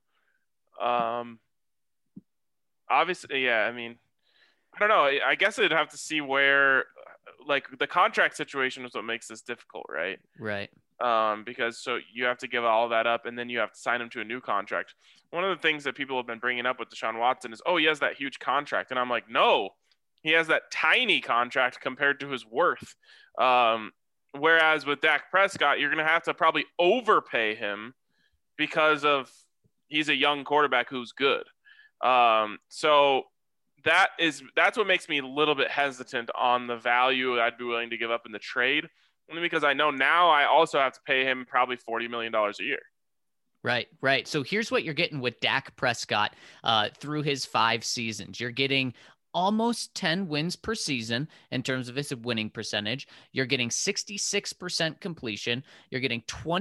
Obviously, yeah. I mean, I don't know. I guess I'd have to see where, like, the contract situation is what makes this difficult, right? Right. Because so you have to give all that up, and then you have to sign him to a new contract. One of the things that people have been bringing up with Deshaun Watson is, oh, he has that huge contract, and I'm like, no. He has that tiny contract compared to his worth. Whereas with Dak Prescott, you're going to have to probably overpay him because of he's a young quarterback who's good. So that's what makes me a little bit hesitant on the value I'd be willing to give up in the trade, only because I know now I also have to pay him probably $40 million a year. Right. So here's what you're getting with Dak Prescott through his 5 seasons. You're getting almost 10 wins per season in terms of his winning percentage. You're getting 66% completion. You're getting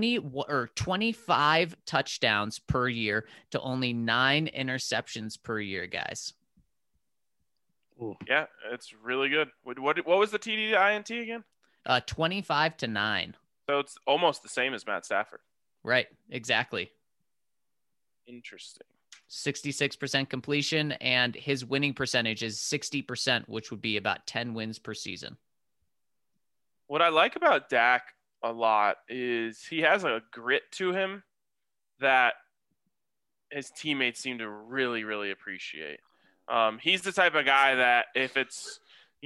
25 touchdowns per year to only 9 interceptions per year, guys. Ooh. Yeah, it's really good. What was the TD to INT again? 25-9. So it's almost the same as Matt Stafford. Right, exactly. Interesting. 66% completion, and his winning percentage is 60%, which would be about 10 wins per season. What I like about Dak a lot is he has a grit to him that his teammates seem to really, really appreciate. He's the type of guy that if it's,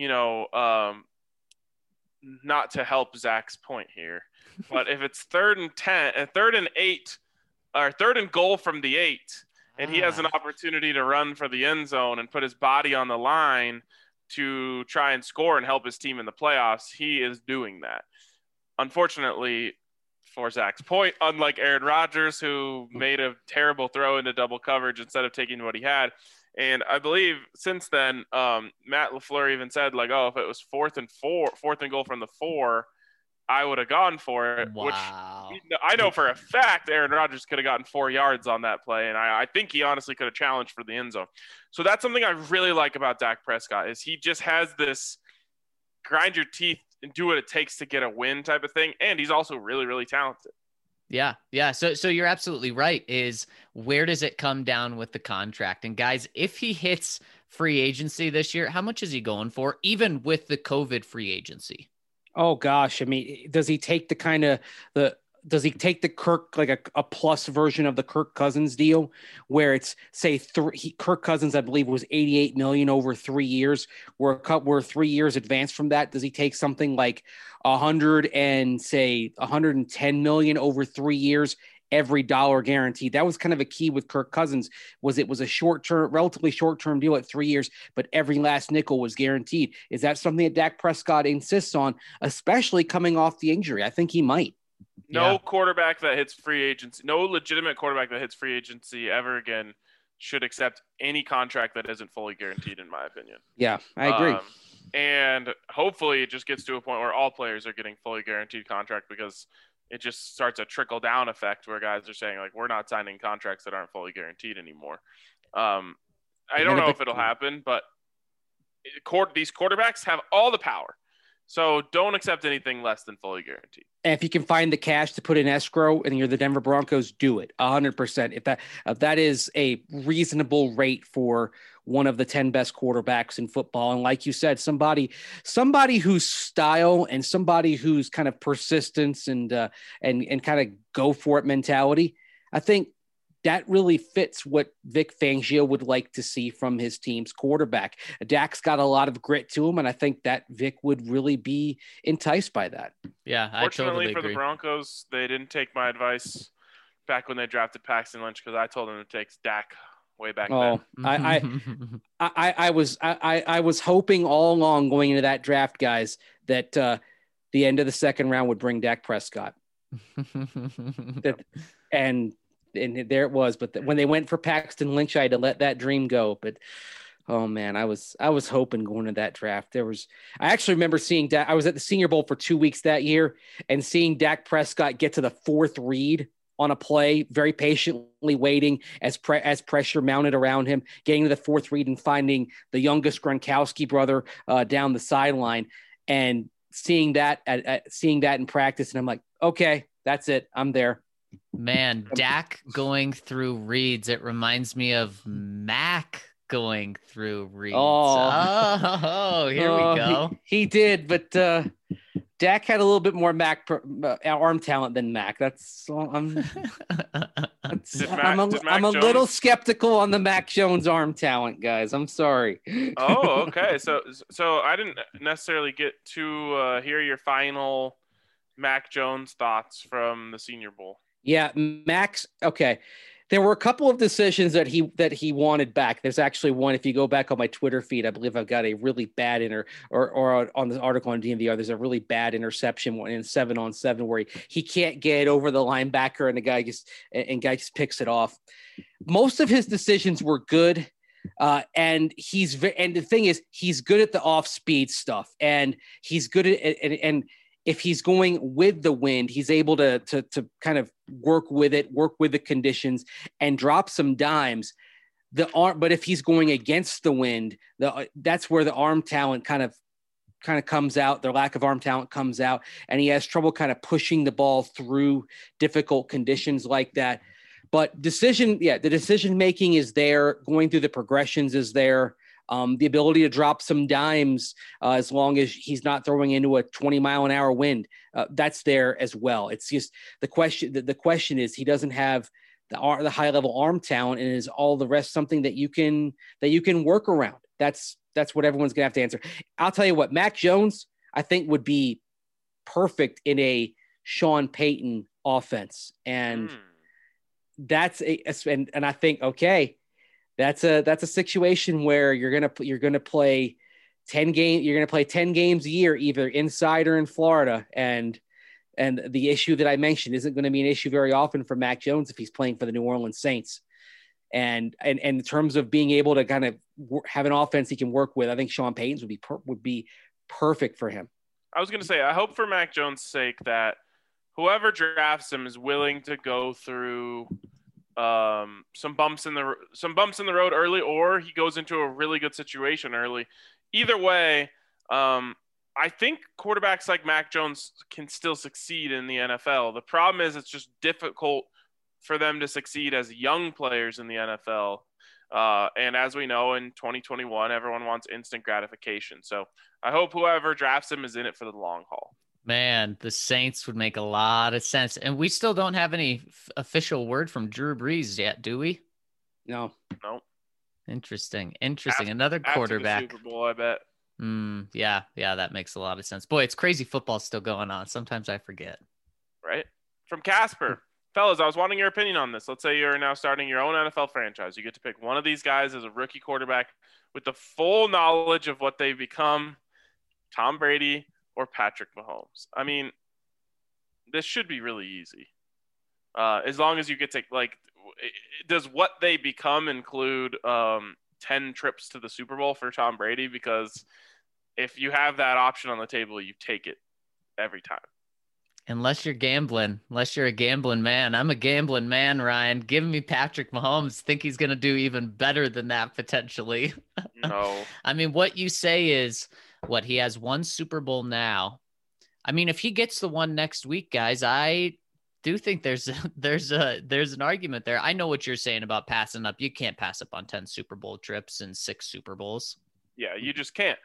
not to help Zach's point here, but if it's 3rd and 10, 3rd and 8, or 3rd and goal from the 8, and he has an opportunity to run for the end zone and put his body on the line to try and score and help his team in the playoffs, he is doing that. Unfortunately, for Zach's point, unlike Aaron Rodgers, who made a terrible throw into double coverage instead of taking what he had. And I believe since then, Matt LaFleur even said, like, oh, if it was 4th and goal from the 4, I would have gone for it. Wow. Which I know for a fact Aaron Rodgers could have gotten 4 yards on that play, and I think he honestly could have challenged for the end zone. So that's something I really like about Dak Prescott, is he just has this grind your teeth and do what it takes to get a win type of thing, and he's also really, really talented. Yeah. So you're absolutely right. Is where does it come down with the contract? And guys, if he hits free agency this year, how much is he going for, even with the COVID free agency? Oh gosh, I mean, does he take does he take the Kirk, like a plus version of the Kirk Cousins deal, where it's say Kirk Cousins, I believe, was $88 million over 3 years. We're 3 years advanced from that. Does he take something like $110 million over 3 years? Every dollar guaranteed. That was kind of a key with Kirk Cousins, was it was a relatively short-term deal at 3 years, but every last nickel was guaranteed. Is that something that Dak Prescott insists on, especially coming off the injury? I think he might. No quarterback that hits free agency, no legitimate quarterback that hits free agency ever again should accept any contract that isn't fully guaranteed, in my opinion. Yeah, I agree. And hopefully it just gets to a point where all players are getting fully guaranteed contract, because it just starts a trickle down effect where guys are saying, like, we're not signing contracts that aren't fully guaranteed anymore. I don't know if it'll happen, but these quarterbacks have all the power. So don't accept anything less than fully guaranteed. And if you can find the cash to put in escrow and you're the Denver Broncos, do it 100%. If that is a reasonable rate for one of the 10 best quarterbacks in football. And like you said, somebody whose style and somebody whose kind of persistence and kind of go for it mentality, I think that really fits what Vic Fangio would like to see from his team's quarterback. Dak's got a lot of grit to him, and I think that Vic would really be enticed by that. Yeah, Fortunately for agree. The Broncos, they didn't take my advice back when they drafted Paxton Lynch, because I told them to take Dak way back then. I was hoping all along going into that draft, guys, that the end of the second round would bring Dak Prescott. And there it was. But when they went for Paxton Lynch, I had to let that dream go. But oh man, I was hoping going to that draft. I actually remember seeing Dak. I was at the Senior Bowl for 2 weeks that year and seeing Dak Prescott get to the 4th read on a play, very patiently waiting as pressure mounted around him, getting to the 4th read and finding the youngest Gronkowski brother down the sideline, and seeing that in practice. And I'm like, okay, that's it. I'm there. Man, Dak going through reads. It reminds me of Mac going through reads. Oh, here we go. He did, but Dak had a little bit more Mac arm talent than Mac. I'm a little skeptical on the Mac Jones arm talent, guys. I'm sorry. Oh, okay. So I didn't necessarily get to hear your final Mac Jones thoughts from the Senior Bowl. Yeah, Max. Okay. There were a couple of decisions that he wanted back. There's actually one, if you go back on my Twitter feed, I believe I've got a really bad or on the article on DNVR, there's a really bad interception in 7-on-7 where he can't get over the linebacker and the guy just picks it off. Most of his decisions were good. And the thing is, he's good at the off-speed stuff, and he's good at and if he's going with the wind, he's able to kind of work with the conditions and drop some dimes. But if he's going against the wind, that's where the arm talent kind of comes out. Their lack of arm talent comes out, and he has trouble kind of pushing the ball through difficult conditions like that. But the decision making is there. Going through the progressions is there. The ability to drop some dimes as long as he's not throwing into a 20-mile-an-hour wind, that's there as well. It's just the question. The question is, he doesn't have the high level arm talent, and is all the rest something that you can work around? That's what everyone's gonna have to answer. I'll tell you what, Mac Jones, I think, would be perfect in a Sean Payton offense, and that's and I think, okay, that's a situation where you're gonna play 10 games. You're gonna play 10 games a year, either inside or in Florida, and the issue that I mentioned isn't going to be an issue very often for Mac Jones if he's playing for the New Orleans Saints. And in terms of being able to kind of have an offense he can work with, I think Sean Payton's would be perfect for him. I was going to say, I hope for Mac Jones' sake that whoever drafts him is willing to go through some bumps in the road early, or he goes into a really good situation early. Either way, I think quarterbacks like Mac Jones can still succeed in the NFL. The problem is it's just difficult for them to succeed as young players in the NFL. And as we know, in 2021, everyone wants instant gratification. So I hope whoever drafts him is in it for the long haul. Man, the Saints would make a lot of sense. And we still don't have any official word from Drew Brees yet, do we? No. Interesting. Another quarterback. After the Super Bowl, I bet. Yeah, that makes a lot of sense. Boy, it's crazy football still going on. Sometimes I forget. Right? From Casper. Fellas, I was wanting your opinion on this. Let's say you're now starting your own NFL franchise. You get to pick one of these guys as a rookie quarterback with the full knowledge of what they've become, Tom Brady or Patrick Mahomes. I mean, this should be really easy. As long as you get to, does what they become include 10 trips to the Super Bowl for Tom Brady? Because if you have that option on the table, you take it every time. Unless you're a gambling man. I'm a gambling man, Ryan. Give me Patrick Mahomes. Think he's going to do even better than that potentially. No. I mean, what you say is he has one Super Bowl now. I mean, if he gets the one next week, guys, I do think there's an argument there. I know what you're saying about passing up. You can't pass up on 10 Super Bowl trips and 6 Super Bowls. Yeah, you just can't.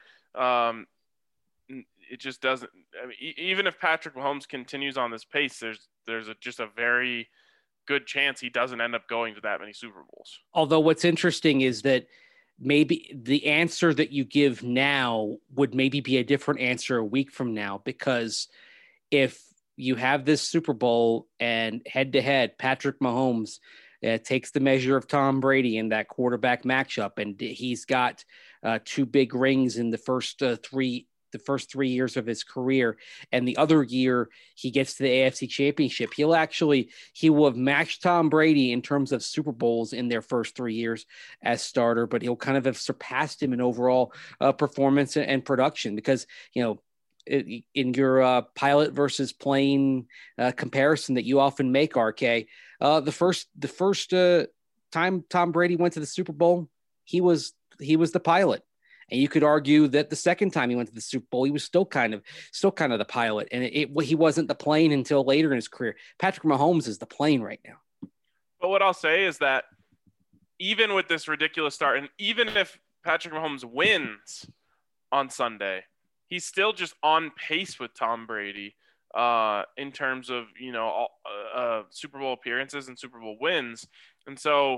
It just doesn't. I mean, even if Patrick Mahomes continues on this pace, there's just a very good chance he doesn't end up going to that many Super Bowls. Although what's interesting is that maybe the answer that you give now would maybe be a different answer a week from now, because if you have this Super Bowl and head-to-head, Patrick Mahomes takes the measure of Tom Brady in that quarterback matchup, and he's got 2 big rings in the first 3 years of his career, and the other year he gets to the AFC Championship. He will have matched Tom Brady in terms of Super Bowls in their first 3 years as starter, but he'll kind of have surpassed him in overall performance and production, because, in your pilot versus plane comparison that you often make, RK, the first time Tom Brady went to the Super Bowl, he was the pilot. And you could argue that the second time he went to the Super Bowl, he was still kind of the pilot, and he wasn't the plane until later in his career. Patrick Mahomes is the plane right now. But what I'll say is that even with this ridiculous start, and even if Patrick Mahomes wins on Sunday, he's still just on pace with Tom Brady in terms of Super Bowl appearances and Super Bowl wins, and so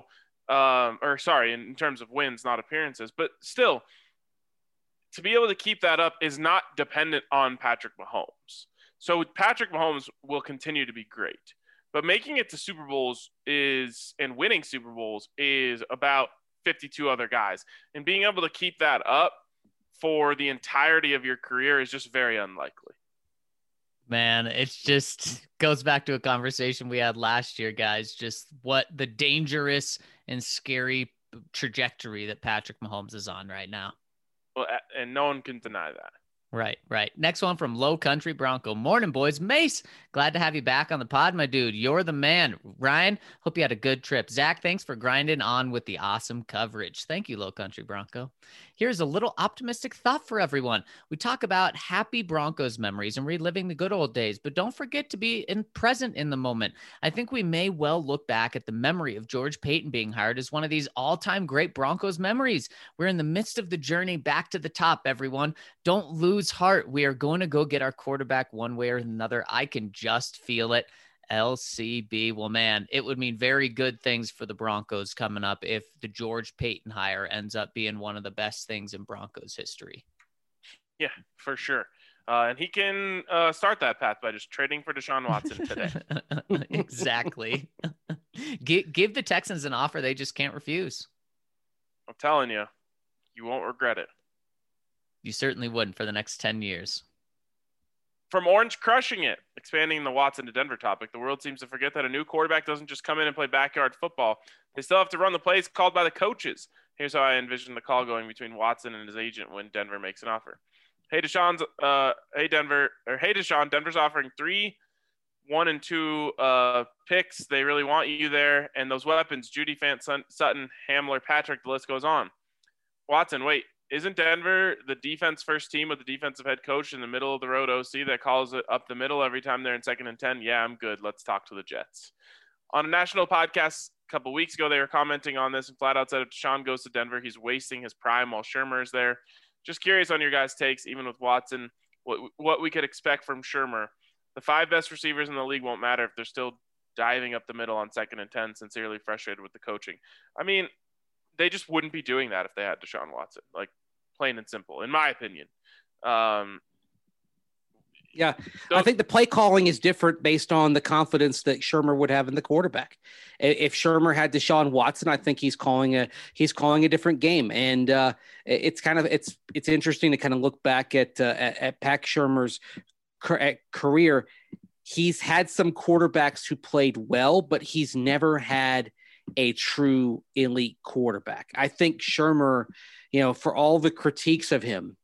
in terms of wins, not appearances, but still. To be able to keep that up is not dependent on Patrick Mahomes. So Patrick Mahomes will continue to be great. But making it to Super Bowls and winning Super Bowls is about 52 other guys. And being able to keep that up for the entirety of your career is just very unlikely. Man, it's just goes back to a conversation we had last year, guys. Just what the dangerous and scary trajectory that Patrick Mahomes is on right now. Well, and no one can deny that. Right. Next one from Low Country Bronco. Morning, boys. Mace, glad to have you back on the pod, my dude. You're the man. Ryan, hope you had a good trip. Zach, thanks for grinding on with the awesome coverage. Thank you, Low Country Bronco. Here's a little optimistic thought for everyone. We talk about happy Broncos memories and reliving the good old days, but don't forget to be present in the moment. I think we may well look back at the memory of George Paton being hired as one of these all-time great Broncos memories. We're in the midst of the journey back to the top, everyone. Don't lose heart. We are going to go get our quarterback one way or another. I can just feel it. LCB. Well, man, it would mean very good things for the Broncos coming up if the George Paton hire ends up being one of the best things in Broncos history. Yeah, for sure. And he can start that path by just trading for Deshaun Watson today. Exactly. Give the Texans an offer they just can't refuse. I'm telling you, you won't regret it. You certainly wouldn't for the next 10 years. From Orange crushing it, expanding the Watson to Denver topic, the world seems to forget that a new quarterback doesn't just come in and play backyard football. They still have to run the plays called by the coaches. Here's how I envision the call going between Watson and his agent when Denver makes an offer. Hey, Deshaun, Denver's offering 3, 1, and 2 picks. They really want you there. And those weapons, Judy, Fant, Sutton, Hamler, Patrick, the list goes on. Watson, wait, isn't Denver the defense first team with the defensive head coach in the middle of the road OC that calls it up the middle every time they're in 2nd and 10? Yeah, I'm good. Let's talk to the Jets. On a national podcast a couple weeks ago, they were commenting on this and flat out said if Deshaun goes to Denver, he's wasting his prime while Shurmur is there. Just curious on your guys' takes, even with Watson, what we could expect from Shurmur. The 5 best receivers in the league won't matter if they're still diving up the middle on 2nd and 10, sincerely frustrated with the coaching. I mean, they just wouldn't be doing that if they had Deshaun Watson, like plain and simple, in my opinion. Yeah, I think the play calling is different based on the confidence that Shurmur would have in the quarterback. If Shurmur had Deshaun Watson, I think he's calling a different game. And it's interesting to kind of look back at Pat Shurmur's career. He's had some quarterbacks who played well, but he's never had a true elite quarterback. I think Shurmur, for all the critiques of him,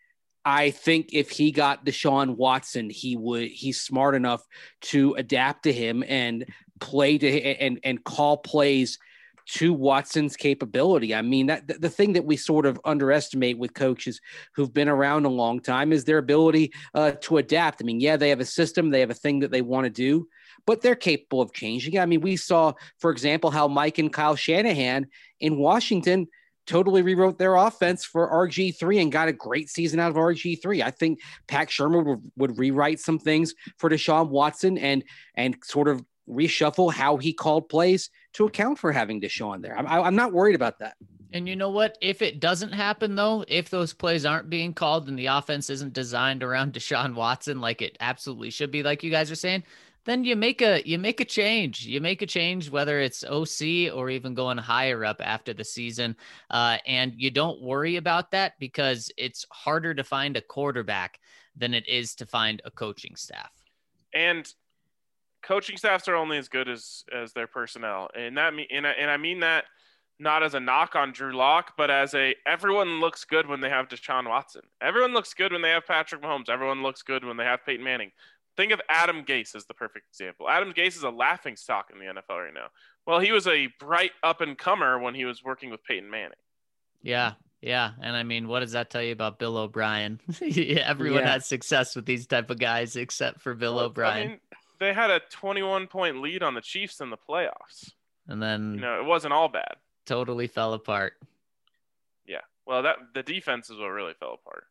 I think if he got Deshaun Watson, he's smart enough to adapt to him and play to and call plays to Watson's capability. I mean, that the thing that we sort of underestimate with coaches who've been around a long time is their ability to adapt. I mean, yeah, they have a system, they have a thing that they want to do, but they're capable of changing. I mean, we saw, for example, how Mike and Kyle Shanahan in Washington totally rewrote their offense for RG3 and got a great season out of RG3. I think Pat Shurmur would rewrite some things for Deshaun Watson and sort of reshuffle how he called plays to account for having Deshaun there. I'm not worried about that. And you know what? If it doesn't happen, though, if those plays aren't being called and the offense isn't designed around Deshaun Watson like it absolutely should be, like you guys are saying, then you make a change. You make a change, whether it's OC or even going higher up after the season. And you don't worry about that because it's harder to find a quarterback than it is to find a coaching staff. And coaching staffs are only as good as their personnel. And I mean that not as a knock on Drew Lock, but as everyone looks good when they have Deshaun Watson. Everyone looks good when they have Patrick Mahomes. Everyone looks good when they have Peyton Manning. Think of Adam Gase as the perfect example. Adam Gase is a laughing stock in the NFL right now. Well, he was a bright up-and-comer when he was working with Peyton Manning. Yeah. And I mean, what does that tell you about Bill O'Brien? Everyone had success with these type of guys except for Bill O'Brien. I mean, they had a 21-point lead on the Chiefs in the playoffs. And then it wasn't all bad. Totally fell apart. Yeah. Well, the defense is what really fell apart.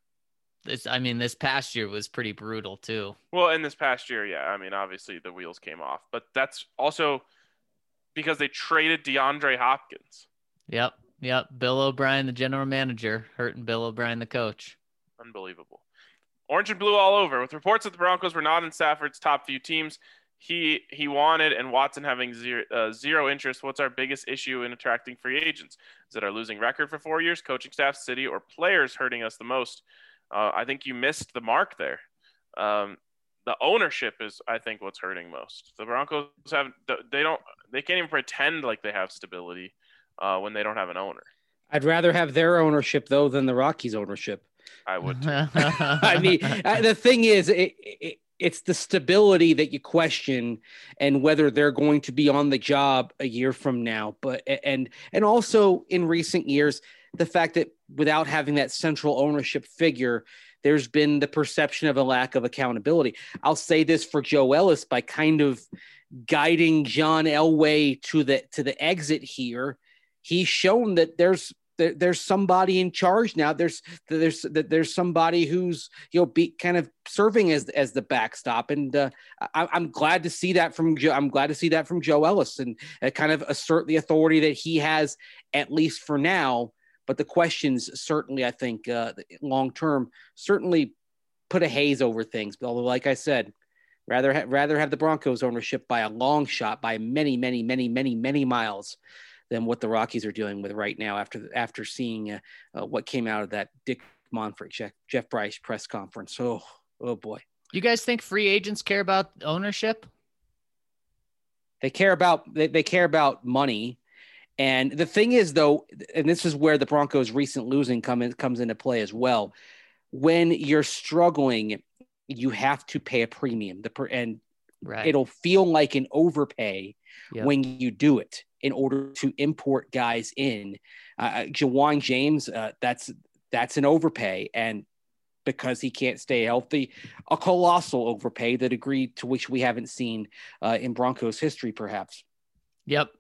This past year was pretty brutal too. Well, in this past year, yeah. I mean, obviously the wheels came off, but that's also because they traded DeAndre Hopkins. Yep. Bill O'Brien, the general manager, hurting Bill O'Brien, the coach. Unbelievable. Orange and blue all over. With reports that the Broncos were not in Stafford's top few teams, he wanted, and Watson having zero interest. What's our biggest issue in attracting free agents? Is it our losing record for 4 years, coaching staff, city, or players hurting us the most? I think you missed the mark there. The ownership is, I think, what's hurting most. The Broncos they can't even pretend like they have stability when they don't have an owner. I'd rather have their ownership though than the Rockies' ownership. I would too. I mean, the thing is, it's the stability that you question and whether they're going to be on the job a year from now. But and also in recent years, the fact that without having that central ownership figure, there's been the perception of a lack of accountability. I'll say this for Joe Ellis by kind of guiding John Elway to the exit here. He's shown that there's there's somebody in charge now. There's somebody who's be kind of serving as the backstop, and I'm glad to see that from Joe Ellis, and kind of assert the authority that he has, at least for now. But the questions certainly, I think, long term, certainly put a haze over things. But although, like I said, rather have the Broncos ownership by a long shot, by many miles, than what the Rockies are dealing with right now after seeing what came out of that Dick Monfort, Jeff Bryce press conference. Oh boy. You guys think free agents care about ownership? They care about money. And the thing is, though, and this is where the Broncos' recent losing comes into play as well. When you're struggling, you have to pay a premium. Right. It'll feel like an overpay when you do it in order to import guys in. Ja'Wuan James, that's an overpay. And because he can't stay healthy, a colossal overpay, the degree to which we haven't seen in Broncos history, perhaps. Yep.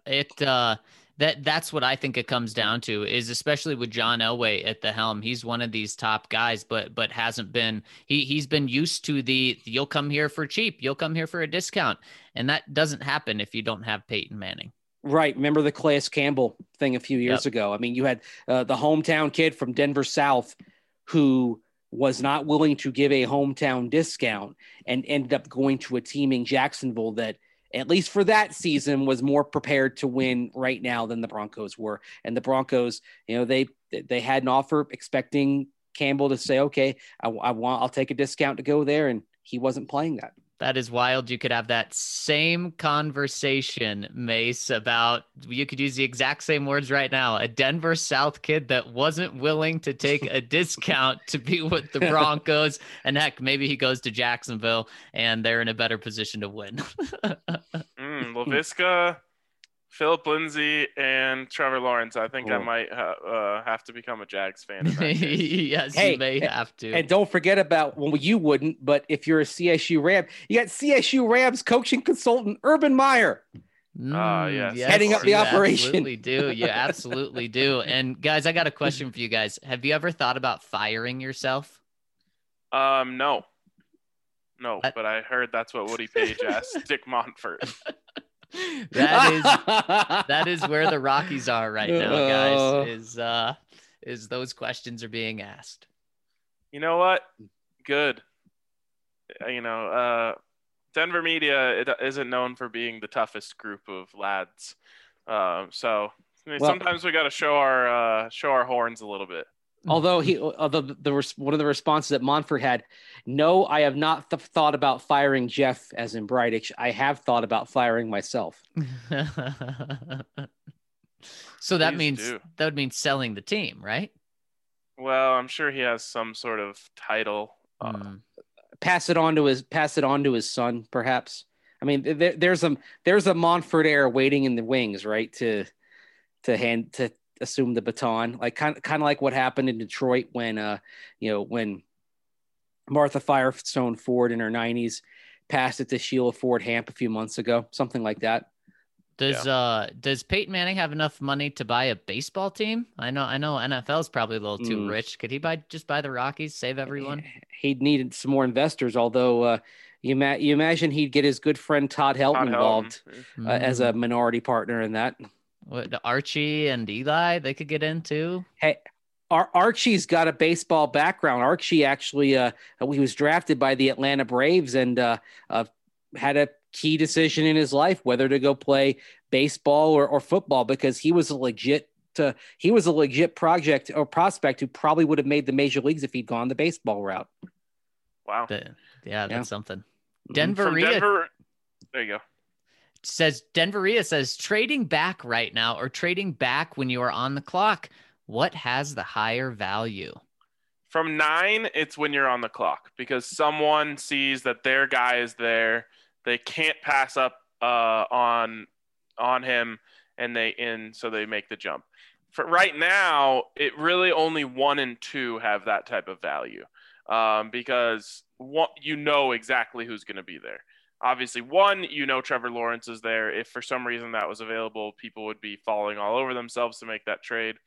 That's what I think it comes down to, is especially with John Elway at the helm. He's one of these top guys, but hasn't been, he's been used to you'll come here for cheap. You'll come here for a discount. And that doesn't happen if you don't have Peyton Manning. Right. Remember the Calais Campbell thing a few years ago. I mean, you had the hometown kid from Denver South who was not willing to give a hometown discount and ended up going to a team in Jacksonville that, at least for that season, was more prepared to win right now than the Broncos were. And the Broncos, they had an offer expecting Campbell to say, okay, I'll take a discount to go there. And he wasn't playing that. That is wild. You could have that same conversation, Mace, about, you could use the exact same words right now. A Denver South kid that wasn't willing to take a discount to be with the Broncos. And heck, maybe he goes to Jacksonville and they're in a better position to win. Laviska, Philip Lindsay, and Trevor Lawrence. I think I might have to become a Jags fan. Yes, you may have to. And don't forget about, well, you wouldn't, but if you're a CSU Ram, you got CSU Rams coaching consultant Urban Meyer. Yes, heading up the operation. You absolutely do. And guys, I got a question for you guys. Have you ever thought about firing yourself? No, but I heard that's what Woody Page asked Dick Monfort. That is where the Rockies are right now, guys. Is those questions are being asked. You know what? Good. Denver media isn't known for being the toughest group of lads. Sometimes we got to show our horns a little bit. Although one of the responses that Monfort had, no, I have not thought about firing Jeff, as in Bridich. I have thought about firing myself. So that would mean selling the team, right? Well, I'm sure he has some sort of title. Pass it on to his son, perhaps. I mean, there's a Monfort heir waiting in the wings, right? To assume the baton, like kind of like what happened in Detroit when Martha Firestone Ford in her 90s passed it to Sheila Ford Hamp a few months ago, something like that. Does Peyton Manning have enough money to buy a baseball team? I know NFL is probably a little too rich. Could he just buy the Rockies, save everyone? He'd need some more investors, although you imagine he'd get his good friend Todd Helton involved as a minority partner in that. What, Archie and Eli, they could get in too? Hey, Archie's got a baseball background. Archie actually, he was drafted by the Atlanta Braves and had a key decision in his life whether to go play baseball or football, because he was a legit project or prospect who probably would have made the major leagues if he'd gone the baseball route. Wow. That's something. Denver. There you go. Denveria says trading back right now or trading back when you are on the clock, what has the higher value? From 9, it's when you're on the clock, because someone sees that their guy is there. They can't pass up on him, so they make the jump. For right now, it really only 1 and 2 have that type of value, because exactly who's going to be there. Obviously, 1, Trevor Lawrence is there. If for some reason that was available, people would be falling all over themselves to make that trade.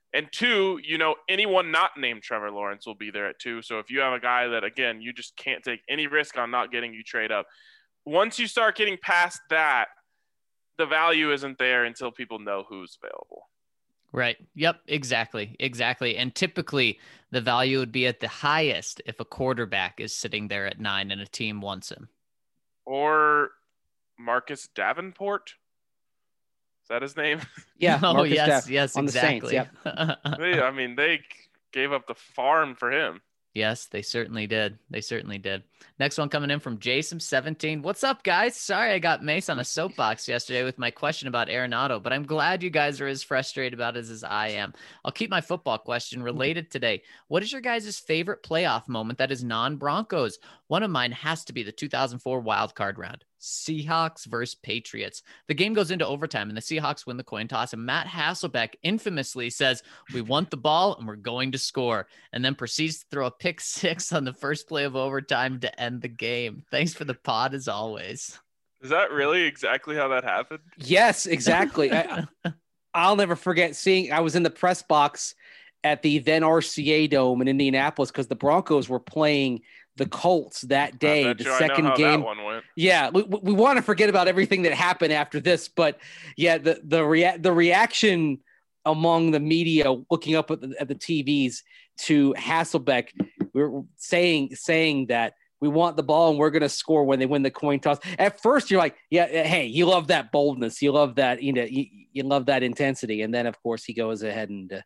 And 2, anyone not named Trevor Lawrence will be there at 2. So if you have a guy that, again, you just can't take any risk on not getting, you trade up. Once you start getting past that, the value isn't there until people know who's available. Right. Yep. Exactly. And typically the value would be at the highest if a quarterback is sitting there at 9 and a team wants him. Or Marcus Davenport. Is that his name? Yeah. Oh, yes, on exactly. The Saints, they gave up the farm for him. Yes, they certainly did. Next one coming in from Jason17. What's up, guys? Sorry I got Mace on a soapbox yesterday with my question about Arenado, but I'm glad you guys are as frustrated about it as I am. I'll keep my football question related today. What is your guys' favorite playoff moment that is non-Broncos? One of mine has to be the 2004 wildcard round. Seahawks versus Patriots. The game goes into overtime and the Seahawks win the coin toss, and Matt Hasselbeck infamously says, "We want the ball and we're going to score," and then proceeds to throw a pick 6 on the first play of overtime to end the game. Thanks for the pod as always. Is that really exactly how that happened? Yes, exactly. I'll never forget I was in the press box at the then RCA Dome in Indianapolis because the Broncos were playing the Colts that day, the second game. That one went. Yeah, we want to forget about everything that happened after this, but yeah, the reaction among the media looking up at the TVs to Hasselbeck, we were saying that we want the ball and we're going to score when they win the coin toss. At first, you're like, yeah, hey, you love that boldness, you love that, you love that intensity, and then of course he goes ahead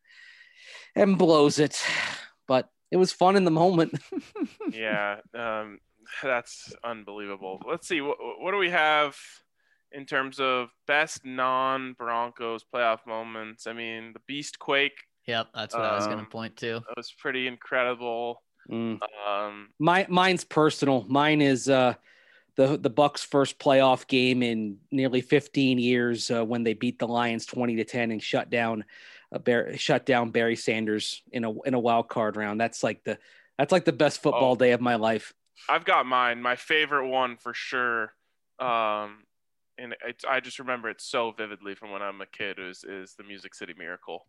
and blows it, but it was fun in the moment. Yeah, that's unbelievable. Let's see, what do we have in terms of best non-Broncos playoff moments? I mean, the Beast Quake. Yep, that's what I was going to point to. That was pretty incredible. Mine's personal. Mine is the Bucs' first playoff game in nearly 15 years when they beat the Lions 20-10 and shut down Barry Sanders in a wild card round. That's like the best football day of my life. I've got mine. My favorite one for sure. And I just remember it so vividly from when I'm a kid is the Music City Miracle.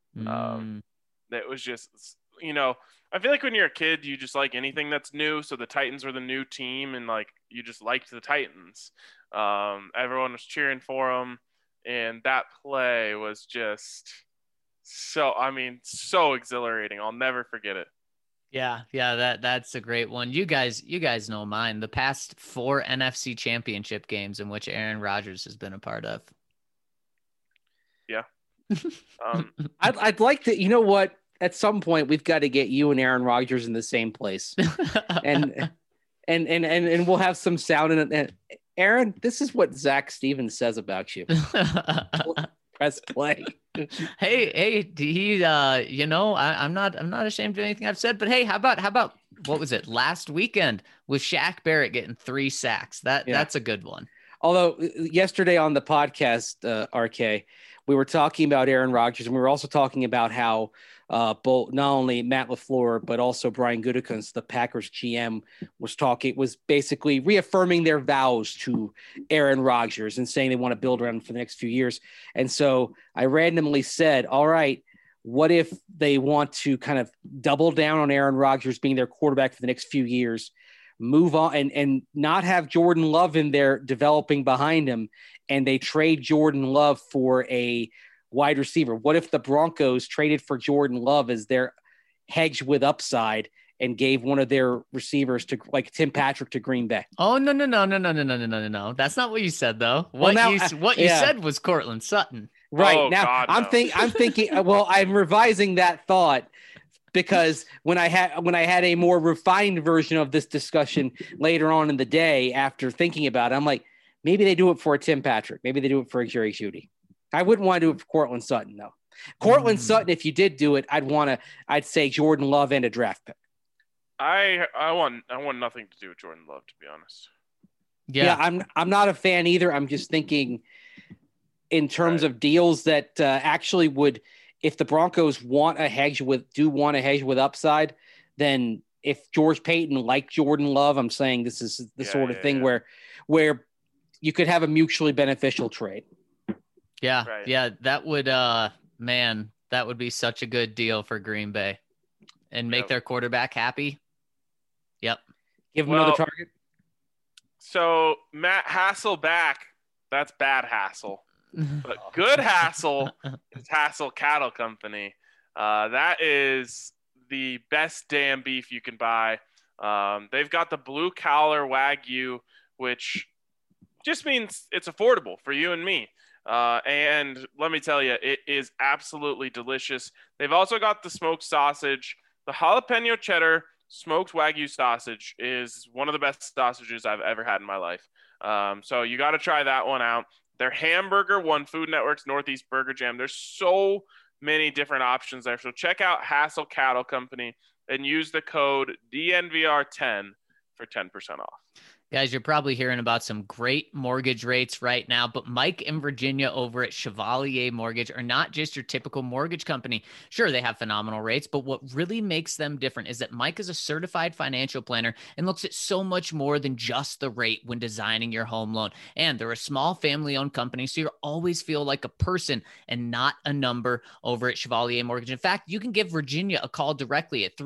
That was just, I feel like when you're a kid, you just like anything that's new. So the Titans were the new team and like, you just liked the Titans. Everyone was cheering for them. And that play was just so exhilarating. I'll never forget it. Yeah, that's a great one. You guys know mine. The past 4 NFC championship games in which Aaron Rodgers has been a part of. Yeah. I'd like to, you know what? At some point we've got to get you and Aaron Rodgers in the same place. and we'll have some sound in it. Aaron, this is what Zach Stevens says about you. Press play. Hey, he, I'm not ashamed of anything I've said, but hey, how about what was it last weekend with Shaq Barrett getting 3 sacks? That's a good one. Although yesterday on the podcast, RK, we were talking about Aaron Rodgers, and we were also talking about how both not only Matt LaFleur but also Brian Gutekunst, the Packers GM, was basically reaffirming their vows to Aaron Rodgers and saying they want to build around him for the next few years. And so I randomly said, all right, what if they want to kind of double down on Aaron Rodgers being their quarterback for the next few years, move on and not have Jordan Love in there developing behind him, and they trade Jordan Love for a wide receiver? What if the Broncos traded for Jordan Love as their hedge with upside and gave one of their receivers to like Tim Patrick to Green Bay? Oh, no. That's not what you said though. What you said was Courtland Sutton. Right. Oh, now God, I'm thinking, well, I'm revising that thought because when I had a more refined version of this discussion later on in the day after thinking about it, I'm like, maybe they do it for a Tim Patrick. Maybe they do it for a Jerry Jeudy. I wouldn't want to do it for Courtland Sutton, though. Courtland Sutton, if you did do it, I'd say Jordan Love and a draft pick. I want nothing to do with Jordan Love, to be honest. Yeah, I'm not a fan either. I'm just thinking in terms of deals that actually would, if the Broncos want a hedge with upside, then if George Payton liked Jordan Love, I'm saying this is the sort of thing where you could have a mutually beneficial trade. Yeah. Right. Yeah. That would, man, That would be such a good deal for Green Bay and make their quarterback happy. Yep. Give him another target. So Matt Hasselback, that's bad Hassel. But good Hassel is Hassel Cattle Company. That is the best damn beef you can buy. They've got the blue collar Wagyu, which just means it's affordable for you and me. And let me tell you, it is absolutely delicious. They've also got the smoked sausage. The jalapeno cheddar smoked Wagyu sausage is one of the best sausages I've ever had in my life. So you got to try that one out. Their hamburger won Food Network's Northeast Burger Jam. There's so many different options there. So check out Hassel Cattle Company and use the code DNVR10 for 10% off. Guys, you're probably hearing about some great mortgage rates right now, but Mike and Virginia over at Chevalier Mortgage are not just your typical mortgage company. Sure, they have phenomenal rates, but what really makes them different is that Mike is a certified financial planner and looks at so much more than just the rate when designing your home loan. And they're a small family-owned company, so you always feel like a person and not a number over at Chevalier Mortgage. In fact, you can give Virginia a call directly at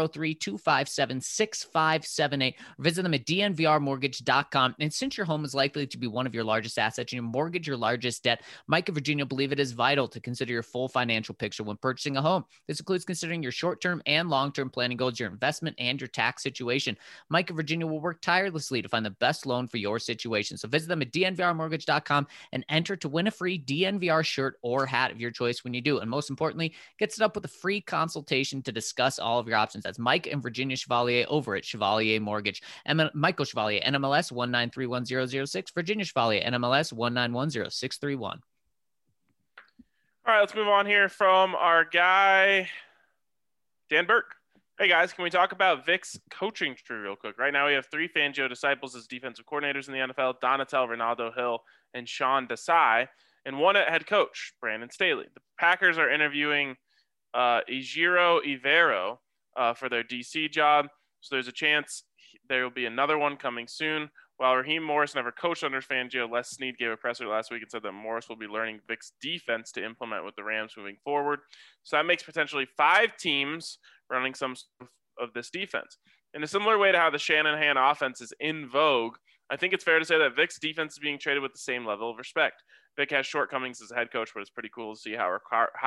303-257-6578 or visit them at DNVR mortgage.com. And since your home is likely to be one of your largest assets and your mortgage your largest debt, Mike and Virginia believe it is vital to consider your full financial picture when purchasing a home. This includes considering your short-term and long-term planning goals, your investment, and your tax situation. Mike and Virginia will work tirelessly to find the best loan for your situation. So visit them at dnvrmortgage.com and enter to win a free DNVR shirt or hat of your choice when you do. And most importantly, get set up with a free consultation to discuss all of your options. That's Mike and Virginia Chevalier over at Chevalier Mortgage. Michael Chevalier, NMLS 1931006, Virginia Chevalier, NMLS 1910631. All right, let's move on here from our guy, Dan Burke. Hey, guys, can we talk about Vic's coaching tree real quick? Right now we have 3 Fangio disciples as defensive coordinators in the NFL, Donatel, Ronaldo Hill, and Sean Desai, and 1 at head coach, Brandon Staley. The Packers are interviewing Ejiro Evero for their DC job, so there's a chance there will be another one coming soon. While Raheem Morris never coached under Fangio, Les Snead gave a presser last week and said that Morris will be learning Vic's defense to implement with the Rams moving forward. So that makes potentially 5 teams running some of this defense. In a similar way to how the Shanahan offense is in vogue, I think it's fair to say that Vic's defense is being treated with the same level of respect. Vic has shortcomings as a head coach, but it's pretty cool to see how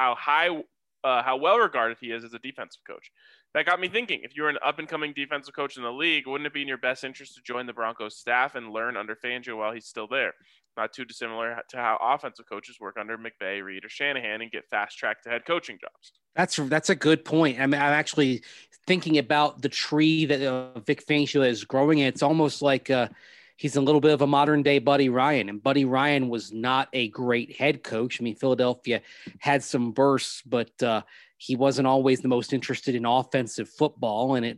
well regarded he is as a defensive coach. That got me thinking, if you're an up-and-coming defensive coach in the league, wouldn't it be in your best interest to join the Broncos staff and learn under Fangio while he's still there? Not too dissimilar to how offensive coaches work under McVay, Reed, or Shanahan and get fast-tracked to head coaching jobs. That's a good point. I mean, I'm actually thinking about the tree that Vic Fangio is growing. It's almost like he's a little bit of a modern-day Buddy Ryan, and Buddy Ryan was not a great head coach. I mean, Philadelphia had some bursts, but he wasn't always the most interested in offensive football, and it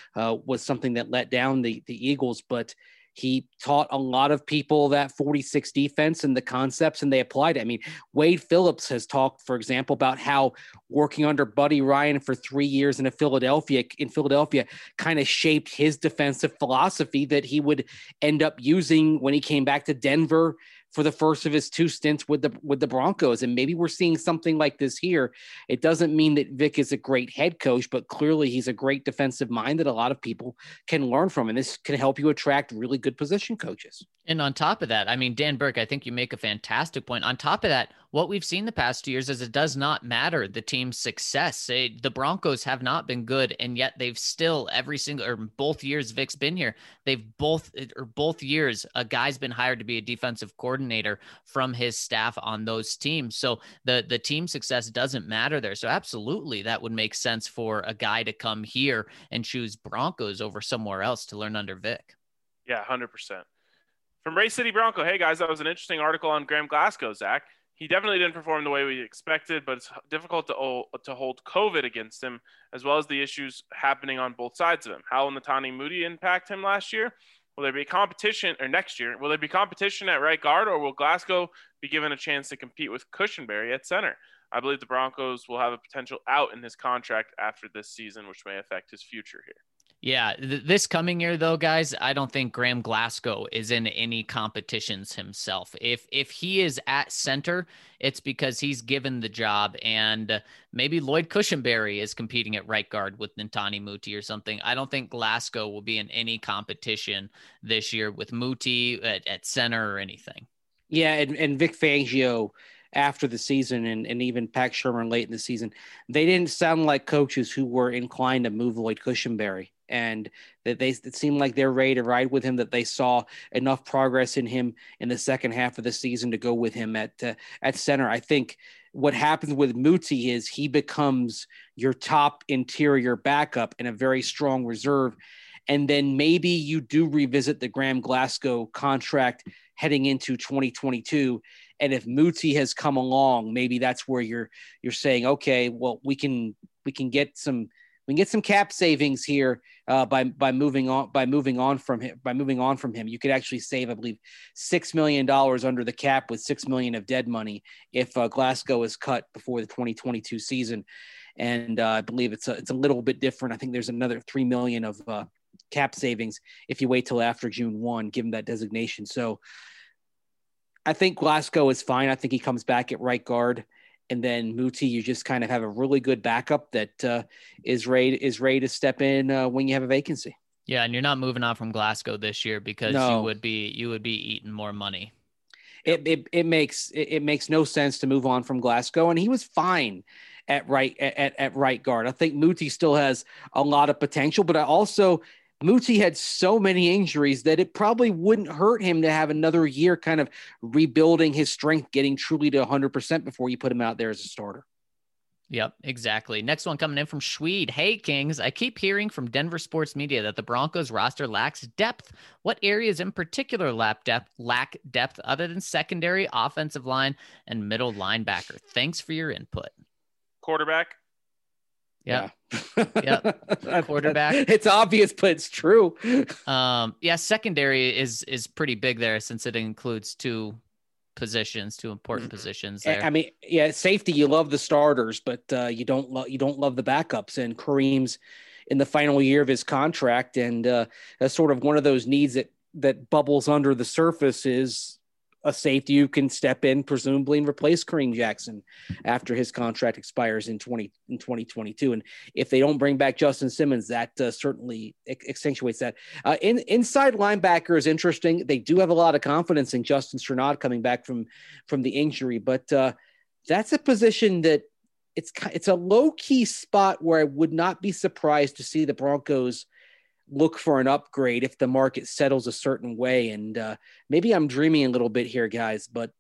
was something that let down the Eagles. But he taught a lot of people that 46 defense and the concepts, and they applied it. I mean, Wade Phillips has talked, for example, about how working under Buddy Ryan for 3 years in Philadelphia kind of shaped his defensive philosophy that he would end up using when he came back to Denver for the first of his 2 stints with the Broncos. And maybe we're seeing something like this here. It doesn't mean that Vic is a great head coach, but clearly he's a great defensive mind that a lot of people can learn from. And this can help you attract really good position coaches. And on top of that, I mean, Dan Burke, I think you make a fantastic point. On top of that, what we've seen the past 2 years is it does not matter the team's success. The Broncos have not been good, and yet they've still both years Vic's been here, both years a guy's been hired to be a defensive coordinator from his staff on those teams. So the team success doesn't matter there. So absolutely, that would make sense for a guy to come here and choose Broncos over somewhere else to learn under Vic. Yeah, 100%. From Ray City Bronco, hey guys, that was an interesting article on Graham Glasgow, Zach. He definitely didn't perform the way we expected, but it's difficult to hold COVID against him, as well as the issues happening on both sides of him. How will Netani Moody impact him last year? Will there be competition, or next year? Will there be competition at right guard, or will Glasgow be given a chance to compete with Cushenberry at center? I believe the Broncos will have a potential out in his contract after this season, which may affect his future here. Yeah, this coming year though, guys, I don't think Graham Glasgow is in any competitions himself. If he is at center, it's because he's given the job, and maybe Lloyd Cushenberry is competing at right guard with Nantani Muti or something. I don't think Glasgow will be in any competition this year with Muti at center or anything. Yeah, and Vic Fangio after the season and even Pat Shermer late in the season, they didn't sound like coaches who were inclined to move Lloyd Cushenberry, and that it seemed like they're ready to ride with him, that they saw enough progress in him in the second half of the season to go with him at center. I think what happens with Muti is he becomes your top interior backup and a very strong reserve. And then maybe you do revisit the Graham Glasgow contract heading into 2022. And if Muti has come along, maybe that's where you're saying, okay, well, we can get some cap savings here by moving on from him. You could actually save, I believe, $6 million under the cap with $6 million of dead money if Glasgow is cut before the 2022 season. And I believe it's a little bit different. I think there's another $3 million of cap savings if you wait till after June 1, given that designation. So I think Glasgow is fine. I think he comes back at right guard. And then Muti, you just kind of have a really good backup that is ready to step in when you have a vacancy. Yeah, and you're not moving on from Glasgow this year because you would be eating more money. It makes no sense to move on from Glasgow, and he was fine at right guard. I think Muti still has a lot of potential, but Muti had so many injuries that it probably wouldn't hurt him to have another year kind of rebuilding his strength, getting truly to 100% before you put him out there as a starter. Yep, exactly. Next one coming in from Schweed. Hey, Kings, I keep hearing from Denver sports media that the Broncos roster lacks depth. What areas in particular lack depth other than secondary, offensive line, and middle linebacker? Thanks for your input. Quarterback. Yeah. Yeah. Quarterback. It's obvious, but it's true. Secondary is pretty big there since it includes two important positions there. I mean, yeah, safety, you love the starters, but you don't love the backups. And Kareem's in the final year of his contract, and that's sort of one of those needs that bubbles under the surface is a safety who can step in, presumably, and replace Kareem Jackson after his contract expires in 2022. And if they don't bring back Justin Simmons, that certainly accentuates that. Inside linebacker is interesting. They do have a lot of confidence in Justin Strnad coming back from the injury, but that's a position that it's a low key spot where I would not be surprised to see the Broncos look for an upgrade if the market settles a certain way. And maybe I'm dreaming a little bit here, guys, but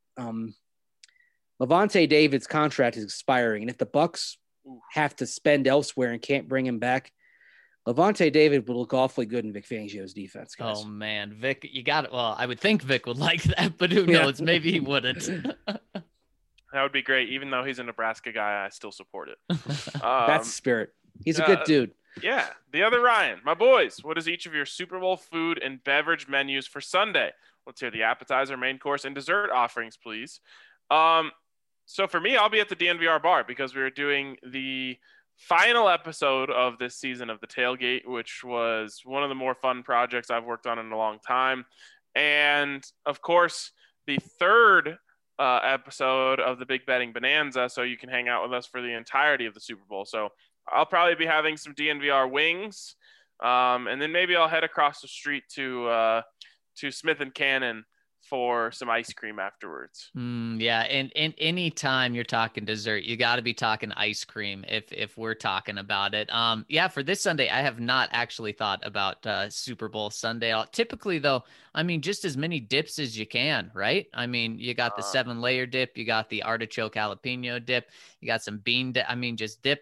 Lavonte David's contract is expiring. And if the Bucs have to spend elsewhere and can't bring him back, Lavonte David would look awfully good in Vic Fangio's defense, guys. Oh, man. Vic, you got it. Well, I would think Vic would like that, but who knows? Maybe he wouldn't. That would be great. Even though he's a Nebraska guy, I still support it. That's the spirit. He's a good dude. Yeah. The other Ryan, my boys, what is each of your Super Bowl food and beverage menus for Sunday? Let's hear the appetizer, main course, and dessert offerings, please. So for me, I'll be at the DNVR bar because we were doing the final episode of this season of The Tailgate, which was one of the more fun projects I've worked on in a long time. And, of course, the third episode of the Big Betting Bonanza, so you can hang out with us for the entirety of the Super Bowl. So I'll probably be having some DNVR wings, and then maybe I'll head across the street to Smith and Cannon for some ice cream afterwards. Yeah, and any time you're talking dessert, you got to be talking ice cream if we're talking about it. For this Sunday, I have not actually thought about Super Bowl Sunday. Typically, though, I mean, just as many dips as you can, right? I mean, you got the 7-layer dip, you got the artichoke jalapeno dip, you got some bean dip. I mean, just dip.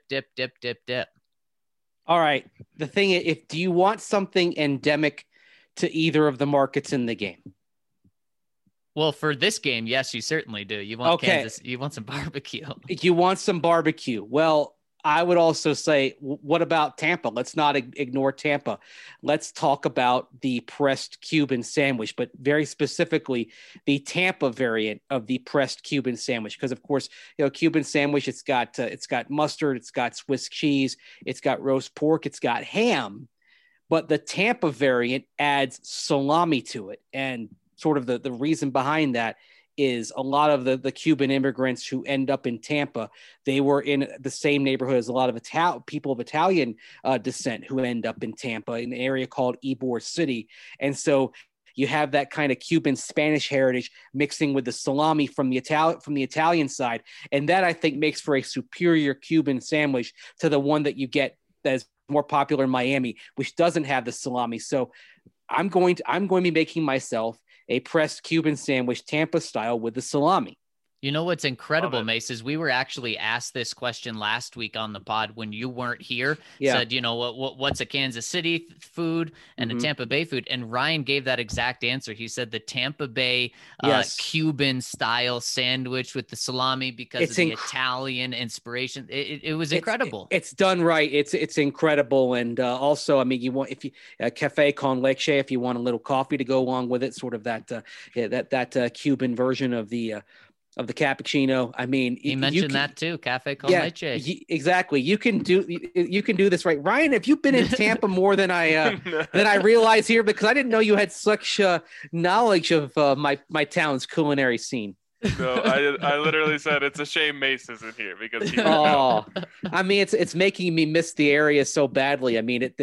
All right. The thing is, do you want something endemic to either of the markets in the game? Well, for this game, yes, you certainly do. You want Kansas. You want some barbecue. You want some barbecue. Well, I would also say, what about Tampa? Let's not ignore Tampa. Let's talk about the pressed Cuban sandwich, but very specifically the Tampa variant of the pressed Cuban sandwich. Because of course, Cuban sandwich, it's got mustard, it's got Swiss cheese, it's got roast pork, it's got ham. but the Tampa variant adds salami to it. And sort of the reason behind that is a lot of the Cuban immigrants who end up in Tampa, they were in the same neighborhood as a lot of people of Italian descent who end up in Tampa, in an area called Ybor City. And so you have that kind of Cuban Spanish heritage mixing with the salami from the Italian side. And that, I think, makes for a superior Cuban sandwich to the one that you get that's more popular in Miami, which doesn't have the salami. So I'm going to be making myself a pressed Cuban sandwich, Tampa style, with the salami. You know what's incredible, Mace, is we were actually asked this question last week on the pod when you weren't here. Yeah. Said, you know, what's a Kansas City food and a Tampa Bay food? And Ryan gave that exact answer. He said the Tampa Bay Cuban style sandwich with the salami because of the Italian inspiration. It was incredible. It's done right. It's incredible. And also, I mean, you want cafe con leche if you want a little coffee to go along with it, sort of that Cuban version of the cappuccino. I mean, he mentioned that too. Cafe con leche. Exactly. You can do this right. Ryan, have you been in Tampa more than I realize here? Because I didn't know you had such knowledge of my town's culinary scene. No, I literally said it's a shame Mace isn't here because I mean, it's making me miss the area so badly. I mean, in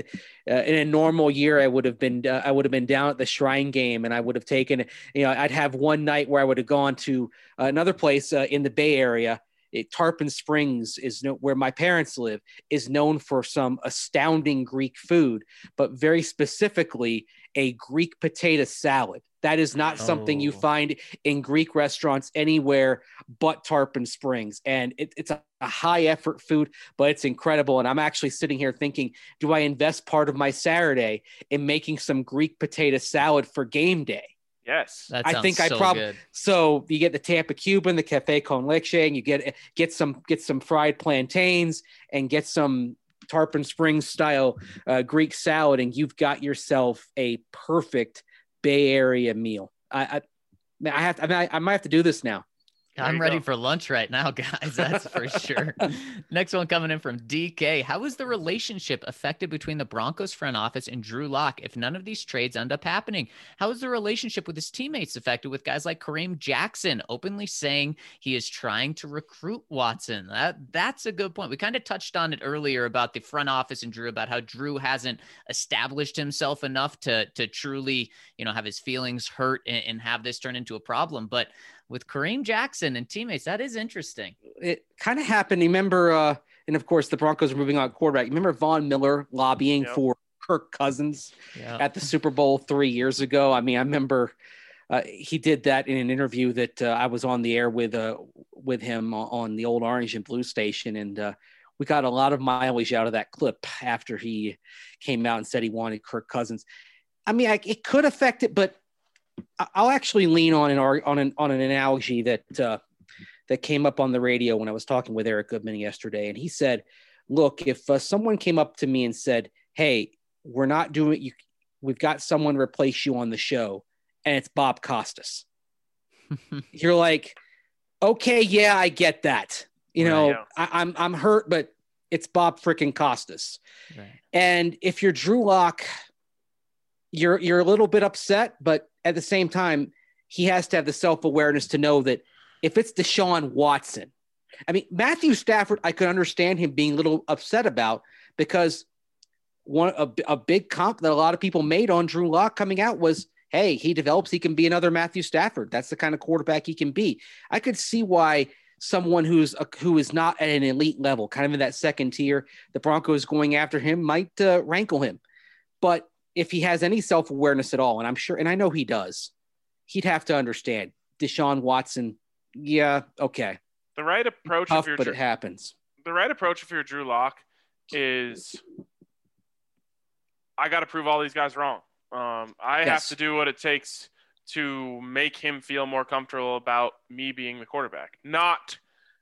a normal year, I would have been down at the Shrine Game, and I would have taken, I'd have one night where I would have gone to another place in the Bay Area. Tarpon Springs where my parents live, is known for some astounding Greek food, but very specifically a Greek potato salad. That is not something you find in Greek restaurants anywhere but Tarpon Springs. And it's a high effort food, but it's incredible. And I'm actually sitting here thinking, do I invest part of my Saturday in making some Greek potato salad for game day? Yes. I think I probably good. So you get the Tampa Cuban, the Cafe con leche, and you get some fried plantains and get some Tarpon Springs style Greek salad, and you've got yourself a perfect Bay Area meal. I might have to do this now. I'm ready for lunch right now, guys. That's for sure. Next one coming in from DK. How is the relationship affected between the Broncos front office and Drew Lock if none of these trades end up happening? How is the relationship with his teammates affected with guys like Kareem Jackson openly saying he is trying to recruit Watson? That's a good point. We kind of touched on it earlier about the front office and Drew, about how Drew hasn't established himself enough to truly, have his feelings hurt and have this turn into a problem. But with Kareem Jackson and teammates, that is interesting. It kind of happened. Remember, and of course the Broncos are moving on quarterback. Remember Von Miller lobbying for Kirk Cousins at the Super Bowl 3 years ago? I mean, I remember he did that in an interview that I was on the air with him on the old Orange and Blue station. And we got a lot of mileage out of that clip after he came out and said he wanted Kirk Cousins. I mean, it could affect it, but I'll actually lean on an analogy that came up on the radio when I was talking with Eric Goodman yesterday. And he said, look, if someone came up to me and said, hey, we're not doing it, we've got someone replace you on the show, and it's Bob Costas. You're like, okay, yeah, I get that. I'm hurt, but it's Bob freaking Costas. Right. And if you're Drew Lock, you're a little bit upset, but at the same time, he has to have the self-awareness to know that if it's Deshaun Watson, I mean, Matthew Stafford, I could understand him being a little upset about, because a big comp that a lot of people made on Drew Lock coming out was, hey, he develops, he can be another Matthew Stafford. That's the kind of quarterback he can be. I could see why someone who is not at an elite level, kind of in that second tier, the Broncos going after him might rankle him. But if he has any self-awareness at all, and I'm sure, and I know he does, he'd have to understand Deshaun Watson. Yeah. Okay. The right approach, but it happens. The right approach if you're Drew Lock is, I got to prove all these guys wrong. I have to do what it takes to make him feel more comfortable about me being the quarterback. Not,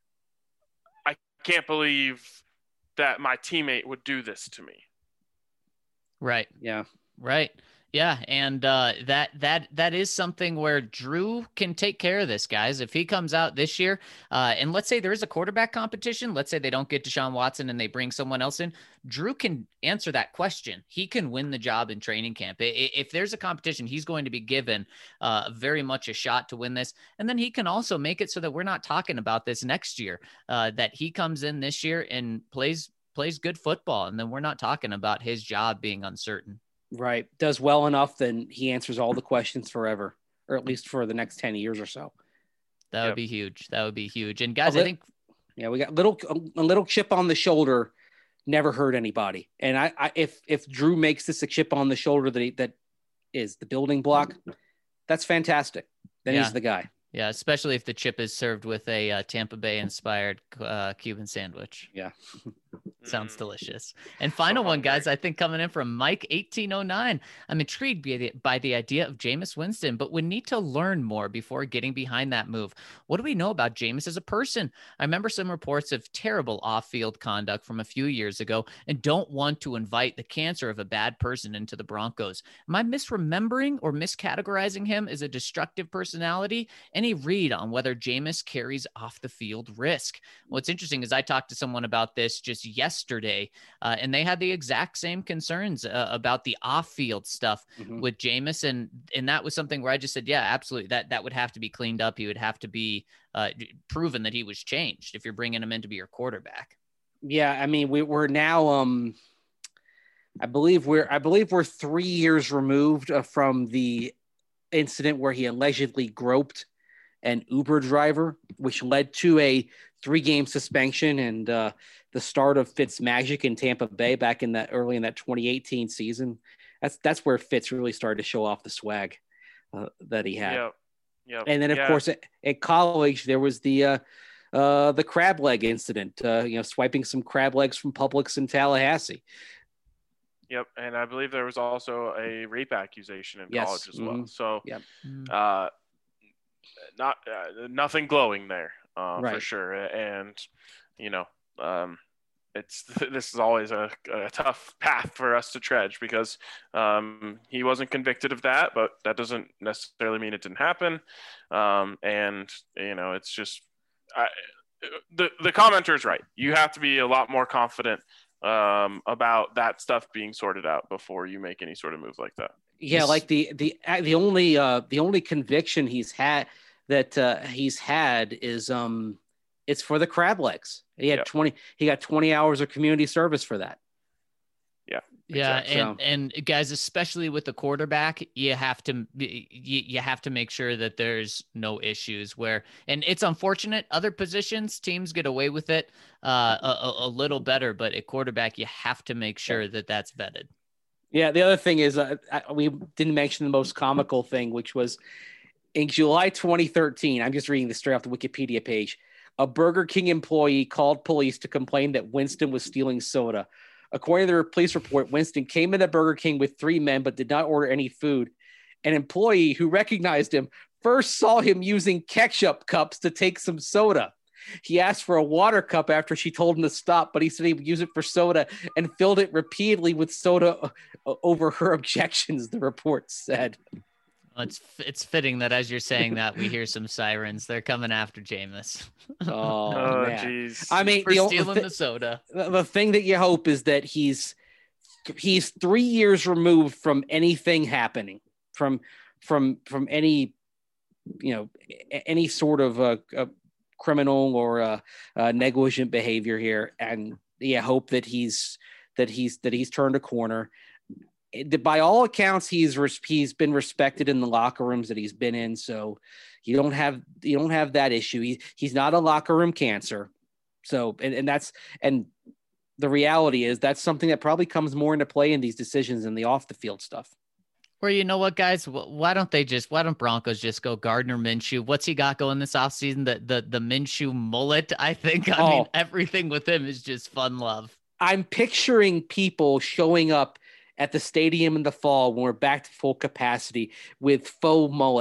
I can't believe that my teammate would do this to me. Right. Yeah. Right. Yeah, and that is something where Drew can take care of this, guys. If he comes out this year, and let's say there is a quarterback competition, let's say they don't get Deshaun Watson and they bring someone else in, Drew can answer that question. He can win the job in training camp. If there's a competition, he's going to be given very much a shot to win this, and then he can also make it so that we're not talking about this next year. That he comes in this year and plays good football, and then we're not talking about his job being uncertain. Right. Does well enough, then he answers all the questions forever, or at least for the next 10 years or so. That would be huge. That would be huge. And guys, I think, we got a little chip on the shoulder, never hurt anybody. And if Drew makes this a chip on the shoulder that is the building block, that's fantastic. Then he's the guy. Yeah, especially if the chip is served with a Tampa Bay inspired Cuban sandwich. Yeah. Sounds delicious. And final one, guys, I think coming in from Mike 1809. I'm intrigued by the idea of Jameis Winston, but would need to learn more before getting behind that move. What do we know about Jameis as a person? I remember some reports of terrible off-field conduct from a few years ago and don't want to invite the cancer of a bad person into the Broncos. Am I misremembering or miscategorizing him as a destructive personality? Any read on whether Jameis carries off the field risk? What's interesting is I talked to someone about this just yesterday, and they had the exact same concerns about the off-field stuff with Jameis, and that was something where I just said, yeah, absolutely, that would have to be cleaned up. He would have to be proven that he was changed if you're bringing him in to be your quarterback. Yeah, I mean, we're now, I believe we're 3 years removed from the incident where he allegedly groped an Uber driver, which led to a 3-game suspension and the start of Fitz magic in Tampa Bay back in that early in that 2018 season. That's where Fitz really started to show off the swag that he had. Yep. And then of course at college there was the crab leg incident. Swiping some crab legs from Publix in Tallahassee. Yep, and I believe there was also a rape accusation in college as well. So, nothing glowing there for sure. And this is always a tough path for us to tread because he wasn't convicted of that, but that doesn't necessarily mean it didn't happen. It's just the commenter is right. You have to be a lot more confident about that stuff being sorted out before you make any sort of move like that. Yeah, like the only conviction he's had is it's for the crab legs. He had 20 hours of community service for that. Yeah. Yeah. Exactly. And guys, especially with the quarterback, you have to make sure that there's no issues and it's unfortunate other positions, teams get away with it a little better, but at quarterback, you have to make sure that that's vetted. Yeah. The other thing is we didn't mention the most comical thing, which was in July 2013, I'm just reading this straight off the Wikipedia page. A Burger King employee called police to complain that Winston was stealing soda. According to the police report, Winston came into Burger King with 3 men but did not order any food. An employee who recognized him first saw him using ketchup cups to take some soda. He asked for a water cup after she told him to stop, but he said he would use it for soda and filled it repeatedly with soda over her objections, the report said. It's fitting that as you're saying that, we hear some sirens. They're coming after Jameis. Oh, jeez. I mean, for stealing the soda. The thing that you hope is that he's 3 years removed from anything happening, from any, any sort of criminal or negligent behavior here, and hope that he's turned a corner. By all accounts, he's been respected in the locker rooms that he's been in, so you don't have that issue. He's not a locker room cancer. So and the reality is that's something that probably comes more into play in these decisions than the off the field stuff. Or you know what, guys? Why don't Broncos just go Gardner Minshew? What's he got going this offseason? The Minshew mullet, I think. I mean, everything with him is just fun love. I'm picturing people showing up at the stadium in the fall when we're back to full capacity with faux mullets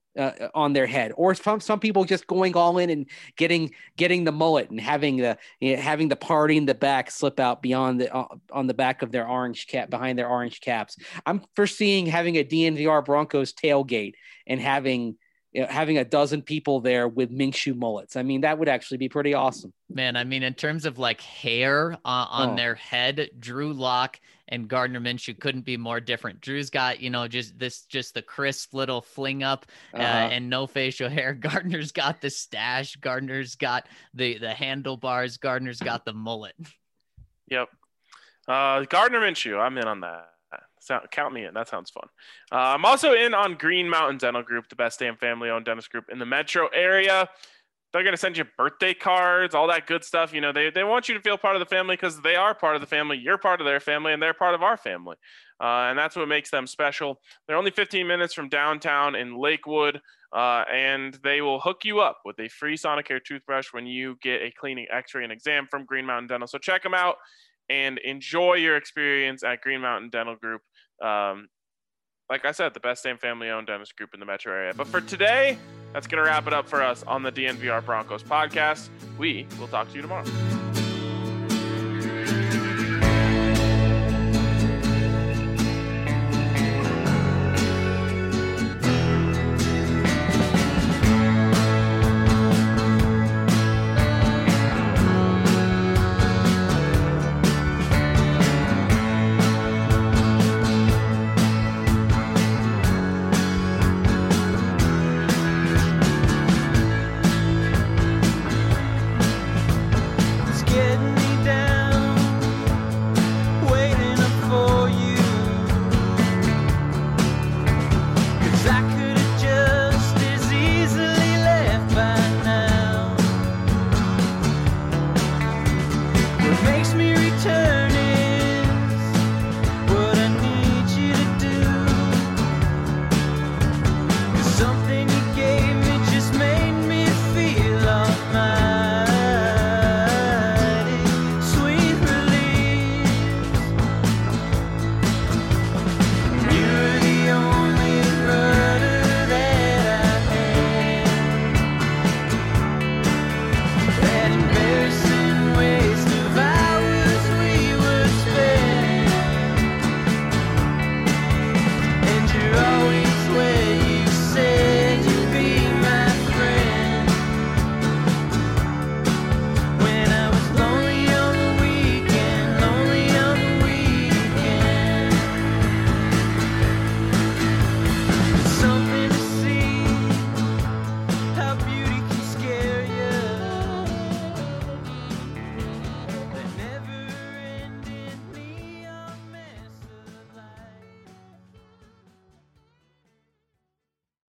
on their head, or some people just going all in and getting the mullet and having the party in the back slip out beyond on the back of their orange cap, behind their orange caps. I'm foreseeing having a DNVR Broncos tailgate and having a dozen people there with Minshew mullets. I mean, that would actually be pretty awesome. Man, I mean, in terms of like hair on their head, Drew Lock and Gardner Minshew couldn't be more different. Drew's got, just the crisp little fling up and no facial hair. Gardner's got the stash. Gardner's got the handlebars. Gardner's got the mullet. Yep. Gardner Minshew, I'm in on that. Count me in. That sounds fun. I'm also in on Green Mountain Dental Group, the best damn family-owned dentist group in the metro area. They're going to send you birthday cards, all that good stuff. They want you to feel part of the family because they are part of the family. You're part of their family, and they're part of our family. And that's what makes them special. They're only 15 minutes from downtown in Lakewood, and they will hook you up with a free Sonicare toothbrush when you get a cleaning, x-ray, and exam from Green Mountain Dental. So check them out and enjoy your experience at Green Mountain Dental Group. Like I said, the best damn family-owned dentist group in the metro area. But for today, that's going to wrap it up for us on the DNVR Broncos podcast. We will talk to you tomorrow. Makes me return